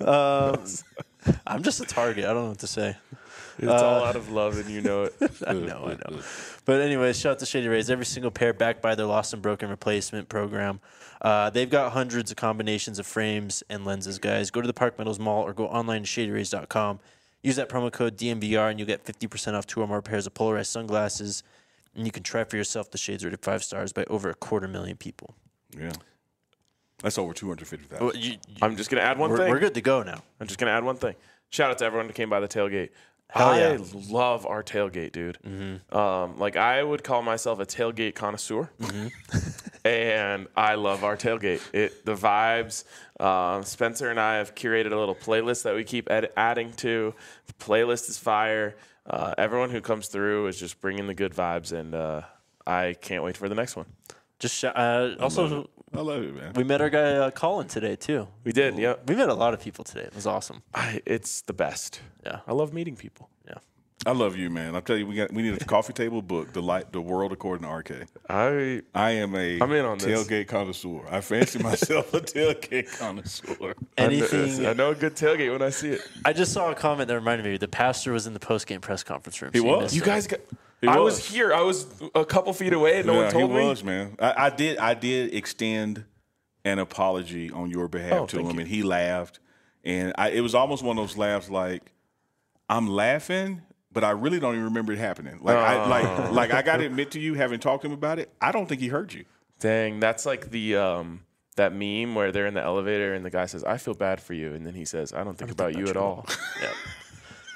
I'm just a target. I don't know what to say. It's all out of love, and you know it. I know. But anyways, shout out to Shady Rays. Every single pair backed by their Lost and Broken replacement program. They've got hundreds of combinations of frames and lenses, guys. Go to the Park Meadows Mall or go online to shadyrays.com. Use that promo code DMVR, and you'll get 50% off 2 or more pairs of polarized sunglasses. And you can try for yourself the shades rated 5 stars by over 250,000 people. Yeah. That's over 250,000. I'm just going to add one thing. We're good to go now. I'm just going to add one thing. Shout out to everyone who came by the tailgate. Hell yeah. I love our tailgate, dude. I would call myself a tailgate connoisseur, and I love our tailgate. The vibes. Spencer and I have curated a little playlist that we keep adding to. The playlist is fire. Everyone who comes through is just bringing the good vibes, and I can't wait for the next one. Just also, I love it, man. we met our guy Colin today too. We did, yeah. We met a lot of people today. It was awesome. It's the best. Yeah. I love meeting people. Yeah. I love you, man. I'll tell you, we need a coffee table book, The World According to RK. I am I'm in on this. Tailgate connoisseur. I fancy myself a tailgate connoisseur. Anything. I know a good tailgate when I see it. I just saw a comment that reminded me. The pastor was in the post-game press conference room. He so you was? missed You it. guys got. I was here. I was a couple feet away, and no one told me. He was, man. I did extend an apology on your behalf to him, and he laughed. And it was almost one of those laughs like, I'm laughing, but I really don't even remember it happening. Like, I got to admit to you, having talked to him about it, I don't think he heard you. Dang, that's like the that meme where they're in the elevator and the guy says, "I feel bad for you," and then he says, "I don't think about you at all." Yeah.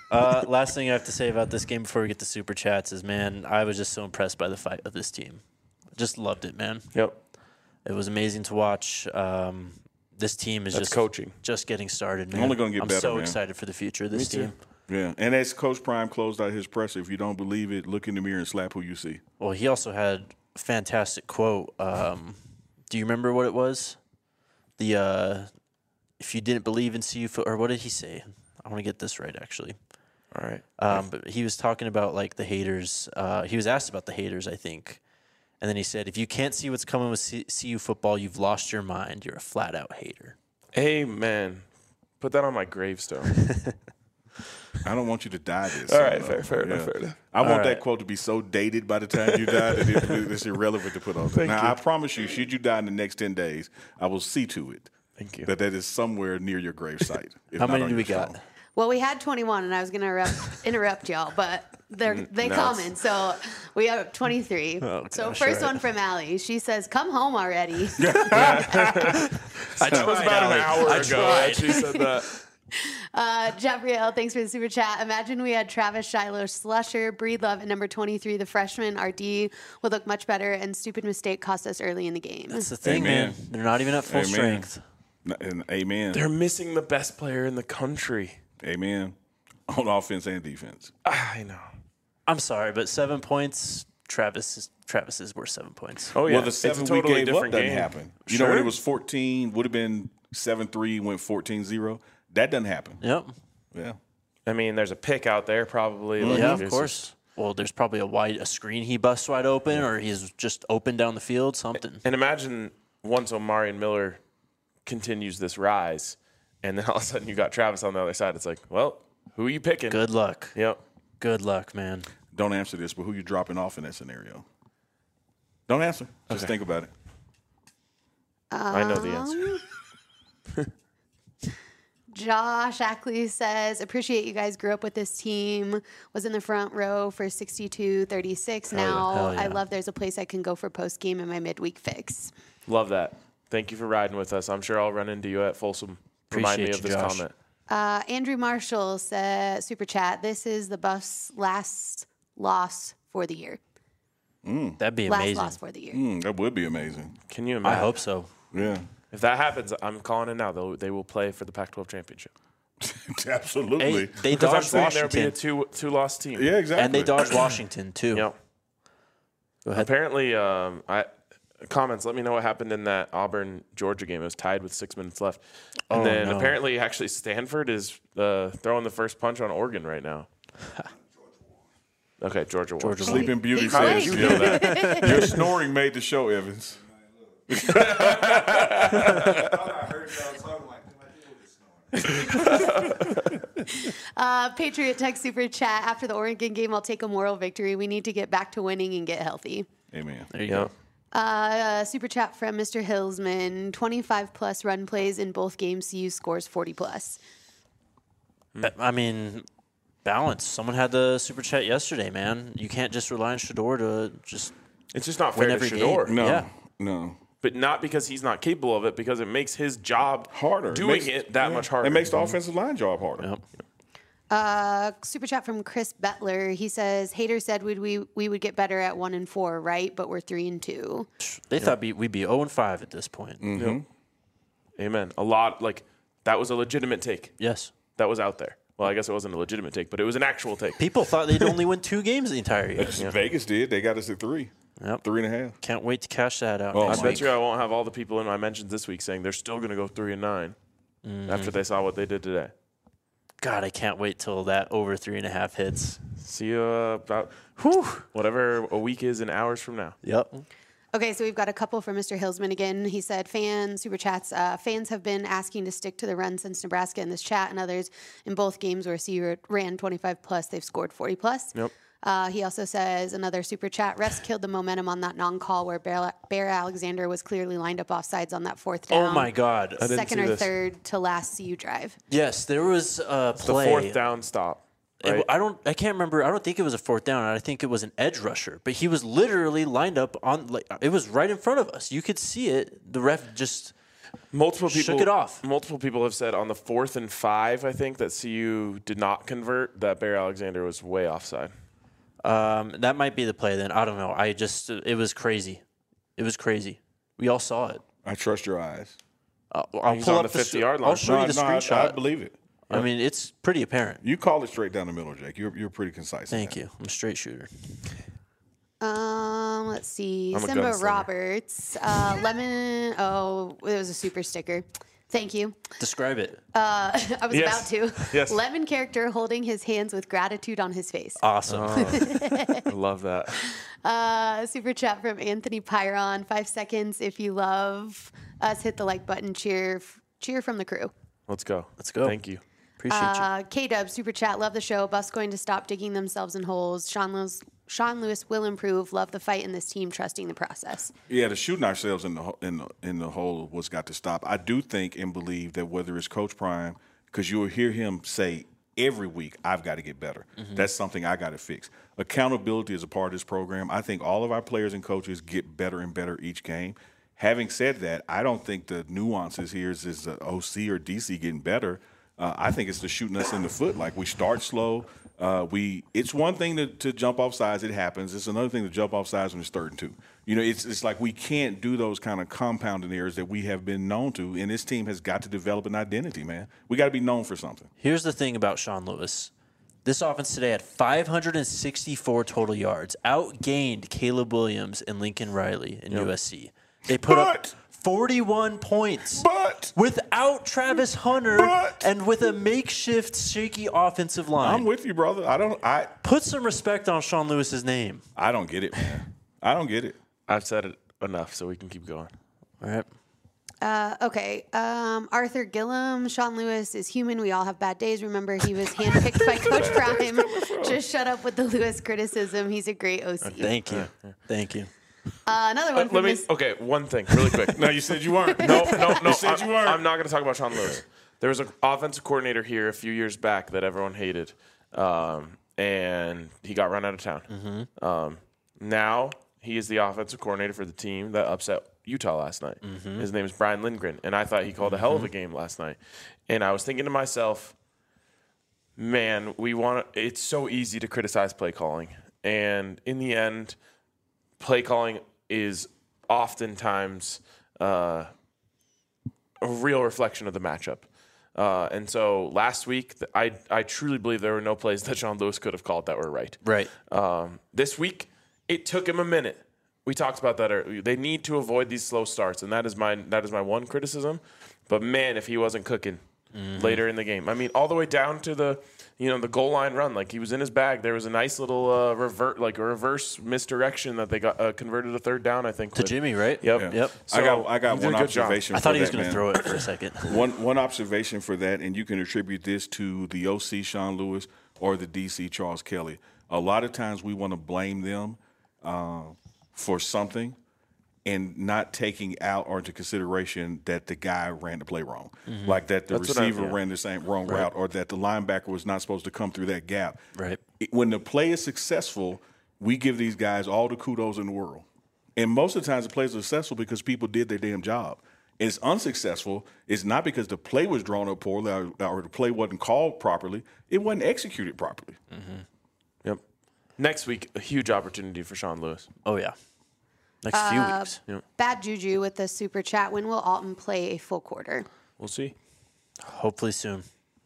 Last thing I have to say about this game before we get to super chats is, man, I was just so impressed by the fight of this team. Just loved it, man. Yep. It was amazing to watch. This team is That's just coaching. just getting started, man. Only gonna get I'm better, so man. excited for the future of this Me too. team. Yeah, and as Coach Prime closed out his presser, if you don't believe it, look in the mirror and slap who you see. Well, he also had a fantastic quote. Do you remember what it was? The if you didn't believe in CU or what did he say? I want to get this right, actually. All right. But he was talking about like the haters. He was asked about the haters, I think, and then he said, "If you can't see what's coming with CU football, you've lost your mind. You're a flat out hater." Amen. Put that on my gravestone. I don't want you to die this. All right, fair enough. I want right. that quote to be so dated by the time you die that it's irrelevant to put on there. Now, I promise you, should you die in the next 10 days, I will see to it Thank you. that is somewhere near your gravesite. if How not many on do we your got? stone. Well, we had 21, and I was going to interrupt y'all, but they Nice. coming. So we have 23. Oh, So gosh, first all right. one from Allie. She says, "Come home already." That was about an hour ago that she said that. Jabrielle, thanks for the super chat. Imagine we had Travis Shiloh Slusher, Breedlove at number 23. The freshman, RD, would look much better, and stupid mistake cost us early in the game. That's the thing, Amen. man. They're not even at full Amen. strength. And amen. They're missing the best player in the country. Amen. On offense and defense. I know. I'm sorry, but 7 points. Travis is worth 7 points. Oh, yeah. Well, the It's a 7 totally we gave up different doesn't game. happen. You know, when Sure. it was 14, would have been 7-3, went 14-0. That doesn't happen. Yep. Yeah. I mean, there's a pick out there probably. Like, Yeah, of it's course. Well, there's probably a screen he busts wide open, or he's just open down the field. Something. And imagine once Omarion Miller continues this rise, and then all of a sudden you got Travis on the other side. It's like, well, who are you picking? Good luck. Yep. Good luck, man. Don't answer this, but who you dropping off in that scenario? Don't answer. Just think about it. I know the answer. Josh Ackley says, "Appreciate you guys grew up with this team. Was in the front row for 62-36. Now Hell yeah. I love there's a place I can go for post game in my midweek fix." Love that. Thank you for riding with us. I'm sure I'll run into you at Folsom. Remind me Appreciate of you, this Josh. comment. Andrew Marshall said, super chat, "This is the Buffs' last loss for the year. That'd be Last amazing. loss for the year." That would be amazing. Can you I imagine? hope so. Yeah. If that happens, I'm calling it now. They will play for the Pac-12 championship. Absolutely. Hey, they Because I'm dodged saying there'll be a Washington, two-loss team. yeah, exactly. and they dodged Washington too. Yep. Go ahead. Apparently, comments. Let me know what happened in that Auburn-Georgia game. It was tied with 6 minutes left, and Oh, then no. apparently, actually, Stanford is throwing the first punch on Oregon right now. Okay, Georgia won. Georgia won. Sleeping Beauty He says, played. you know that. Your snoring made the show, Evans. Patriot Tech super chat, "After the Oregon game, I'll take a moral victory. We need to get back to winning and get healthy." Amen. There you Yep. go. Super chat from Mr. Hillsman, 25-plus run plays in both games. CU scores 40-plus. I mean, balance. Someone had the super chat yesterday, man. You can't just rely on Shador to just It's just not win fair to every Shador. game. No. Yeah. No. But not because he's not capable of it, because it makes his job Harder. doing Makes- it that much harder. It makes the offensive line job harder. Yep. Super chat from Chris Bettler. He says, "Hater said we would get better at 1-4, right? But we're 3-2." They thought we'd be 0-5 at this point. Amen. A lot, like, that was a legitimate take. Yes. That was out there. Well, I guess it wasn't a legitimate take, but it was an actual take. People thought they'd only win 2 games the entire year. Vegas did. They got us at 3. Yep. 3.5. Can't wait to cash that out Oh, next I my week. bet you I won't have all the people in my mentions this week saying they're still going to go 3-9 after they saw what they did today. God, I can't wait till that over 3.5 hits. See you about whatever a week is in hours from now. Yep. Okay, so we've got a couple from Mr. Hillsman again. He said, super chats, "Fans have been asking to stick to the run since Nebraska in this chat and others in both games where CU ran 25-plus, they've scored 40-plus. Yep. He also says, another super chat, "Refs killed the momentum on that non-call where Bear Alexander was clearly lined up offsides on that 4th down. Oh, my God. didn't Second see or this. third to last CU drive." Yes, there was a The play. 4th down stop. Right? I can't remember. I don't think it was a 4th down. I think it was an edge rusher. But he was literally lined up on, like, it was right in front of us. You could see it. The ref just Multiple people shook it off. Multiple people have said on the 4th and 5, I think, that CU did not convert, that Barry Alexander was way offside. That might be the play then. I don't know. It was crazy. It was crazy. We all saw it. I trust your eyes. I'll He's pull on up the 50-yard line. I'll show you the screenshot. I believe it. I mean, it's pretty apparent. You call it straight down the middle, Jake. You're pretty concise. Thank you. I'm a straight shooter. Let's see. I'm a Simba gunslinger. Roberts. Lemon. Oh, it was a super sticker. Thank you. Describe it. I was Yes. about to. Yes. Lemon character holding his hands with gratitude on his face. Awesome. I love that. Super chat from Anthony Pyron. 5 seconds if you love us. Hit the like button. Cheer from the crew. Let's go. Let's go. Thank you. Appreciate you. K-Dub, super chat. Love the show. Buffs going to stop digging themselves in holes. Sean Lewis will improve. Love the fight in this team. Trusting the process. Yeah, the shooting ourselves in the hole was got to stop. I do think and believe that whether it's Coach Prime, because you will hear him say every week, I've got to get better. That's something I got to fix. Accountability is a part of this program. I think all of our players and coaches get better and better each game. Having said that, I don't think the nuances here is the OC or DC getting better. I think it's the shooting us in the foot. Like, we start slow. It's one thing to jump off sides. It happens. It's another thing to jump off sides when it's 3rd and 2. You know, it's like we can't do those kind of compounding errors that we have been known to, and this team has got to develop an identity, man. We got to be known for something. Here's the thing about Sean Lewis. This offense today had 564 total yards, outgained Caleb Williams and Lincoln Riley in USC. They put up 41 points without Travis Hunter and with a makeshift shaky offensive line. I'm with you, brother. Put some respect on Sean Lewis's name. I don't get it, man. I don't get it. I've said it enough, so we can keep going. All right. Okay. Arthur Gillum. Sean Lewis is human. We all have bad days. Remember, he was handpicked by Coach Prime. Just shut up with the Lewis criticism. He's a great OC. Thank you. Thank you. Another one from Okay, one thing, really quick. No, you said you weren't. No. You said you weren't. I'm not going to talk about Sean Lewis. There was an offensive coordinator here a few years back that everyone hated, and he got run out of town. Now he is the offensive coordinator for the team that upset Utah last night. His name is Brian Lindgren, and I thought he called a hell of a game last night. And I was thinking to myself, man, it's so easy to criticize play calling. And in the end, play calling is oftentimes a real reflection of the matchup. And so last week, I truly believe there were no plays that Sean Lewis could have called that were right. Right. This week, it took him a minute. We talked about that earlier. They need to avoid these slow starts, and that is my one criticism. But man, if he wasn't cooking later in the game, I mean, all the way down to the goal line run, like he was in his bag. There was a nice little reverse misdirection that they got converted a 3rd down, I think. To Jimmy, right? Yep. Yeah. So, I got he did one a good job. observation. I thought he was going to throw it for a second. One observation for that, and you can attribute this to the OC Sean Lewis or the DC Charles Kelly. A lot of times we want to blame them for something and not taking out or into consideration that the guy ran the play wrong. Like that the receiver ran the same wrong route, or that the linebacker was not supposed to come through that gap. Right. When the play is successful, we give these guys all the kudos in the world. And most of the times the plays are successful because people did their damn job. And it's unsuccessful. It's not because the play was drawn up poorly or the play wasn't called properly. It wasn't executed properly. Yep. Next week, a huge opportunity for Sean Lewis. Oh, yeah. Next few weeks. Bad Juju with the super chat. When will Alton play a full quarter? We'll see. Hopefully soon.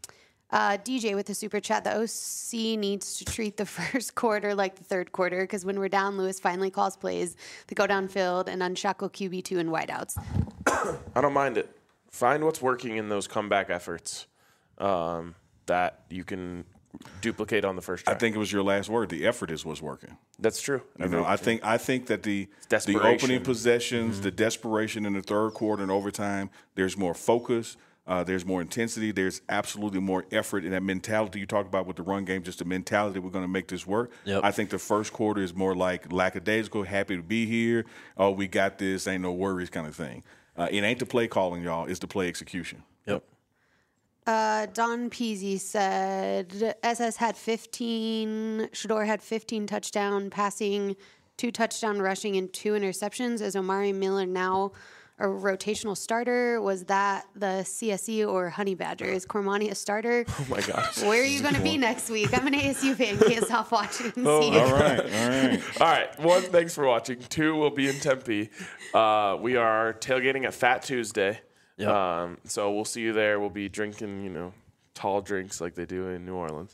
DJ with the super chat. The OC needs to treat the first quarter like the 3rd quarter, because when we're down, Lewis finally calls plays to go downfield and unshackle QB2 and wideouts. I don't mind it. Find what's working in those comeback efforts that you can duplicate on the first try. I think it was your last word. The effort is what's working. That's true. You know, I think that the opening possessions, the desperation in the 3rd quarter and overtime, there's more focus, there's more intensity, there's absolutely more effort, and that mentality you talked about with the run game, just the mentality we're going to make this work. Yep. I think the first quarter is more like lackadaisical, happy to be here, oh, we got this, ain't no worries kind of thing. It ain't the play calling, y'all, it's the play execution. Yep. Don Peasy said SS had 15, Shador had 15 touchdown passing, 2 touchdown rushing, and 2 interceptions. Is Omari Miller now a rotational starter? Was that the CSE or Honey Badger? Is Cormani a starter? Oh my gosh. Where are you going to be next week? I'm an ASU fan. Can't stop watching and see. All right. All right. 1, thanks for watching. 2, we'll be in Tempe. We are tailgating at Fat Tuesday. Yep. So we'll see you there. We'll be drinking, tall drinks like they do in New Orleans.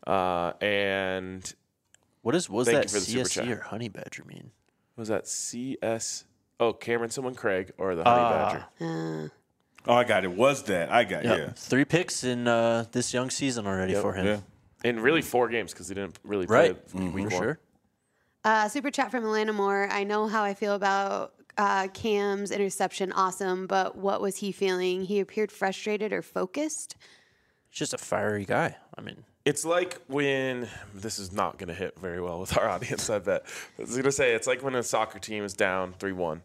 And What was Thank that you for the super CSE chat. or Honey Badger mean? was that CS? Oh, Cameron, someone Craig, or the Honey Badger. Oh, I got it. Was that? I got Yep. yeah. 3 picks in this young season already for him. Yeah. In really 4 games because he didn't really play Right. week For 1. sure. Super chat from Atlanta Moore. I know how I feel about Cam's interception. Awesome. But what was he feeling? He appeared frustrated or focused. He's just a fiery guy. I mean, It's like when this is not going to hit very well with our audience, I bet. I was going to say it's like when a soccer team is down 3-1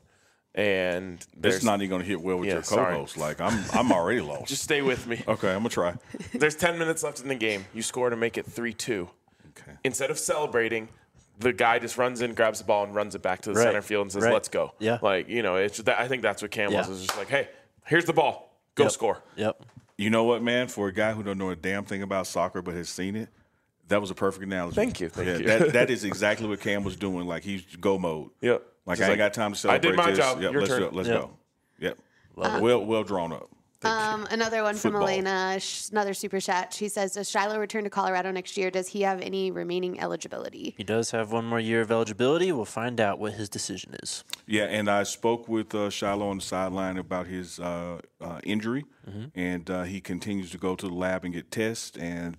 and It's there's not even going to hit well with Yeah, your sorry. co-host. Like I'm already lost. just stay with me. Okay, I'm gonna try. There's 10 minutes left in the game. You score to make it 3-2. Okay. Instead of celebrating, the guy just runs in, grabs the ball, and runs it back to the Right. center field and says, Right. "Let's go." Yeah. It's that. I think that's what Cam was. Yeah. It's just like, "Hey, here's the ball. Go Yep. score." Yep. You know what, man? For a guy who don't know a damn thing about soccer but has seen it, that was a perfect analogy. Thank you. That is exactly what Cam was doing. Like he's go mode. Yep. Like Just I ain't got time to I celebrate did my this. job. Yep, Your let's turn. do it. Let's Yep. go. Yep. Well drawn up. Another one Football. from Elena, another super chat. She says, does Shiloh return to Colorado next year? Does he have any remaining eligibility? He does have 1 more year of eligibility. We'll find out what his decision is. Yeah, and I spoke with Shiloh on the sideline about his injury, and he continues to go to the lab and get tests. And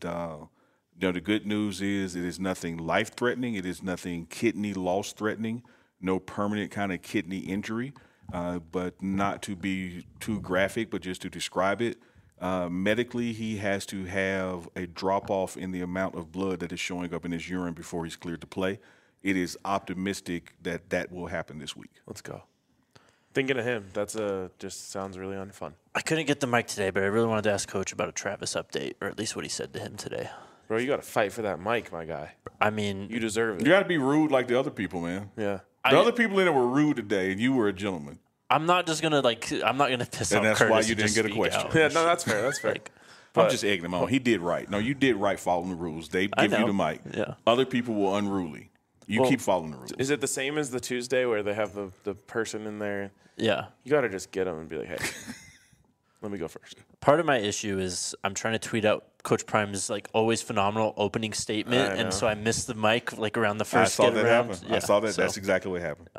the good news is it is nothing life-threatening. It is nothing kidney loss-threatening. No permanent kind of kidney injury. But not to be too graphic, but just to describe it. Medically, he has to have a drop-off in the amount of blood that is showing up in his urine before he's cleared to play. It is optimistic that that will happen this week. Let's go. Thinking of him, that's just sounds really unfun. I couldn't get the mic today, but I really wanted to ask Coach about a Travis update, or at least what he said to him today. Bro, you got to fight for that mic, my guy. I mean, You deserve it. You got to be rude like the other people, man. Yeah. The other people in it were rude today, and you were a gentleman. I'm not just gonna I'm not gonna piss And off that's why Curtis you and didn't just get a speak question. out. Yeah, no, that's fair. That's fair. I'm just egging him on. He did right. No, you did right following the rules. They I give you know. the mic. Yeah. Other people were unruly. You keep following the rules. Is it the same as the Tuesday where they have the person in there? Yeah. You got to just get them and be like, hey, let me go first. Part of my issue is I'm trying to tweet out Coach Prime's always phenomenal opening statement, I know. and so I missed the mic around the I first saw get that around. happen. Yeah, I saw that. so- That's exactly what happened.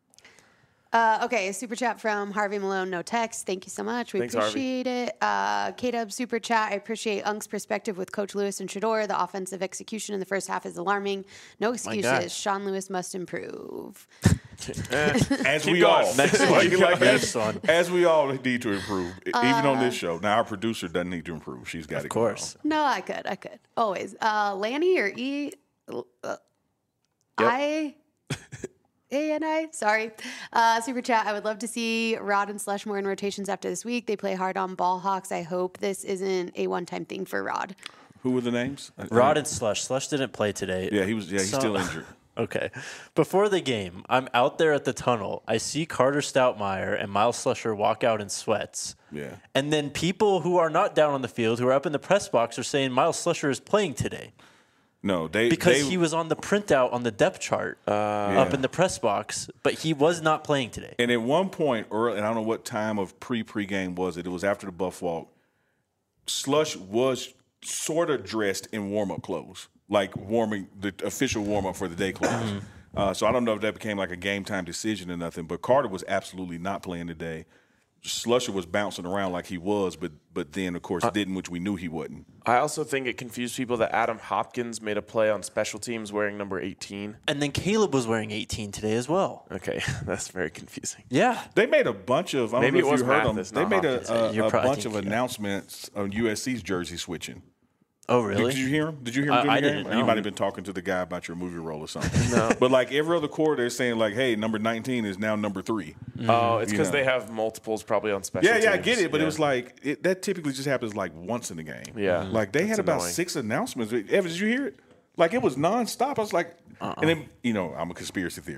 Okay, super chat from Harvey Malone, no text. Thank you so much. We Thanks, Harvey. appreciate it. K-Dub super chat. I appreciate Unk's perspective with Coach Lewis and Shador. The offensive execution in the first half is alarming. No guy. excuses. Sean Lewis must improve. As Keep we going. all, Next Like- one. like Next one. as we all need to improve, even on this show. Now our producer doesn't need to improve. She's got it. Of course. No, I could. Always. Lanny or E? A-N-I? Sorry. Super chat. I would love to see Rod and Slush more in rotations after this week. They play hard on Ball Hawks. I hope this isn't a one-time thing for Rod. Who were the names? Rod and Slush. Slush didn't play today. Yeah, he was. Yeah, he's So- still injured. Okay. Before the game, I'm out there at the tunnel. I see Carter Stoutmeyer and Miles Slusher walk out in sweats. Yeah. And then people who are not down on the field, who are up in the press box, are saying Miles Slusher is playing today No, because he was on the printout on the depth chart up in the press box, but he was not playing today. And at one point early, and I don't know what time of pregame was it. It was after the Buff walk. Slush was sort of dressed in warm-up clothes, like warming the official warm-up for the day clothes. So I don't know if that became like a game-time decision or nothing. But Carter was absolutely not playing today. Slusher was bouncing around like he was, but then of course didn't, which we knew he wouldn't. I also think it confused people that Adam Hopkins made a play on special teams wearing number 18. And then Caleb was wearing 18 today as well. Okay, that's very confusing. Yeah. They made a bunch of. I don't Maybe know it if was you heard them. Mathis, They not made Hopkins. You're a probably bunch of thinking, announcements on USC's jersey switching. Oh, really? Did you hear him? Did you hear him? during I the didn't game? know. You might have been talking to the guy about your movie role or something. No. But like every other quarter, they're saying like, "Hey, number 19 is now number 3." Oh, it's You because know. they have multiples probably on special teams. Yeah, I get it, but Yeah. it was like that typically just happens like once in the game. Yeah. like they had That's about annoying. 6 announcements. Evan, did you hear it? Like it was nonstop. I was like, and then I'm a conspiracy theorist.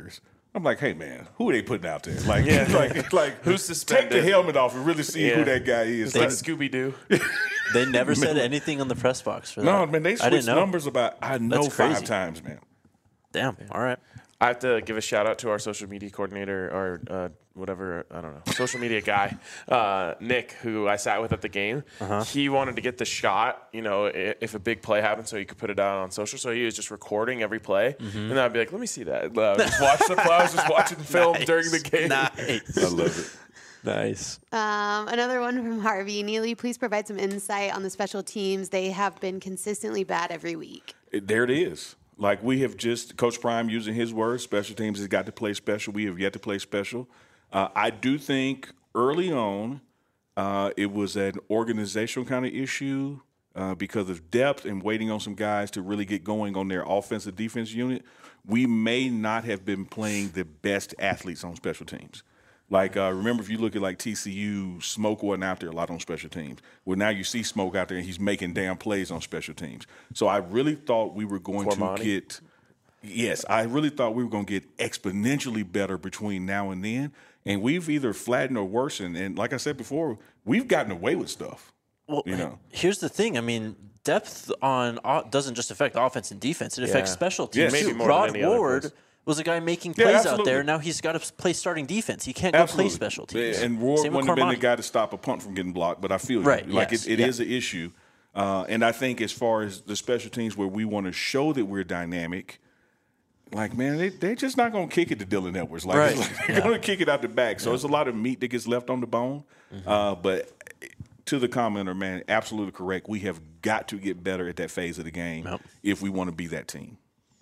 I'm like, hey man, who are they putting out there? Like, Yeah. like Who's suspended? Take the helmet off and really see who that guy is. It's like Scooby-Doo. They never said anything on the press box for that. No, man, they I didn't switched know. numbers about That's 5 crazy. times, man. Damn. All right. I have to give a shout out to our social media coordinator or whatever, I don't know, social media guy, Nick, who I sat with at the game. He wanted to get the shot, if a big play happened so he could put it out on social. So he was just recording every play. And I'd be like, let me see that. Just watch the play. I was just watching the film during the game. Nice. I love it. Nice. Another one from Harvey. Neely, please provide some insight on the special teams. They have been consistently bad every week. There it is. Like we have just, Coach Prime using his words, special teams has got to play special. We have yet to play special. I do think early on it was an organizational kind of issue because of depth and waiting on some guys to really get going on their offensive defense unit. We may not have been playing the best athletes on special teams. Like, remember, if you look at, like, TCU, Smoke wasn't out there a lot on special teams. Well, now you see Smoke out there, and he's making damn plays on special teams. So I really thought we were going to get – yes, I really thought we were going to get exponentially better between now and then. And we've either flattened or worsened. And like I said before, we've gotten away with stuff. Well, here's the thing. I mean, depth doesn't just affect offense and defense. It affects special teams. Yes. too. Maybe more Rod than any other Ward place. was a guy making plays out absolutely. there. Now he's got to play starting defense. He can't go play special teams. And Ward Same with wouldn't have been the Cormani. guy to stop a punt from getting blocked, but I feel Right, you. Like yes, it yeah. is an issue. And I think as far as the special teams where we want to show that we're dynamic, like, man, they're just not going to kick it to Dylan Edwards. Like, Right. it's like they're going to kick it out the back. So it's a lot of meat that gets left on the bone. But to the commenter, man, absolutely correct. We have got to get better at that phase of the game if we want to be that team.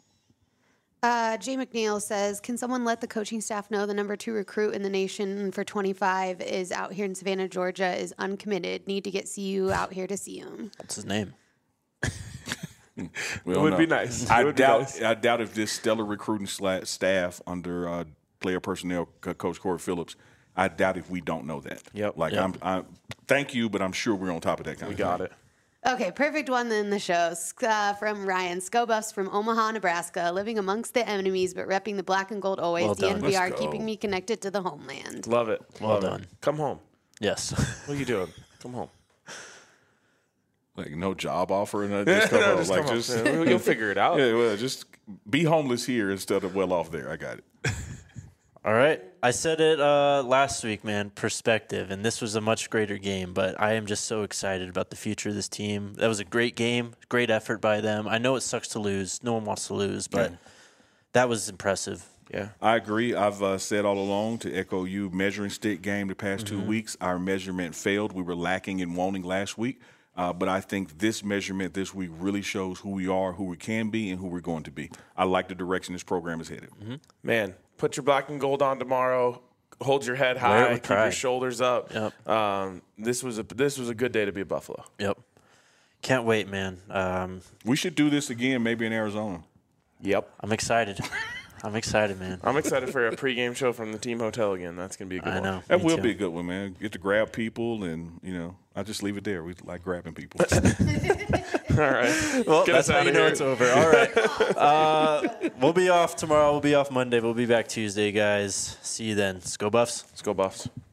Jay McNeil says, can someone let the coaching staff know the number 2 recruit in the nation for 25 is out here in Savannah, Georgia, is uncommitted. Need to get CU out here to see him. What's his name? It would be nice. I It would be doubt. nice. I doubt if this stellar recruiting staff under player personnel coach Corey Phillips. I doubt if we don't know that. Yep. Like I'm. Thank you, but I'm sure we're on top of that kind We of got thing. it. Okay, perfect one in the show. From Ryan. Scobuffs from Omaha, Nebraska, living amongst the enemies but repping the black and gold always. Well done. DNVR Let's go. keeping me connected to the homeland. Love it. Well Love done. It. Come home. Yes. What are you doing? Come home. Like no job offer and just come No, home. just Like come home. just You'll figure it out. yeah. Well, just be homeless here instead of well off there. I got it. All right. I said it last week, man, perspective, and this was a much greater game, but I am just so excited about the future of this team. That was a great game, great effort by them. I know it sucks to lose. No one wants to lose, but that was impressive. Yeah. I agree. I've said all along, to echo you, measuring stick game the past 2 weeks, our measurement failed. We were lacking in wanting last week. But I think this measurement this week really shows who we are, who we can be, and who we're going to be. I like the direction this program is headed. Man, put your black and gold on tomorrow. Hold your head Wear it high. with Keep your pride. shoulders up. Yep. This was a good day to be a Buffalo. Yep. Can't wait, man. We should do this again, maybe in Arizona. Yep. I'm excited. I'm excited, man. I'm excited for a pregame show from the team hotel again. That's gonna be a good I one. know. That Me will too. be a good one, man. Get to grab people, and I just leave it there. We like grabbing people. All right. Well, Get that's us how outta you know here. it's over. All right. We'll be off tomorrow. We'll be off Monday. We'll be back Tuesday, guys. See you then. Let's go Buffs. Let's go Buffs.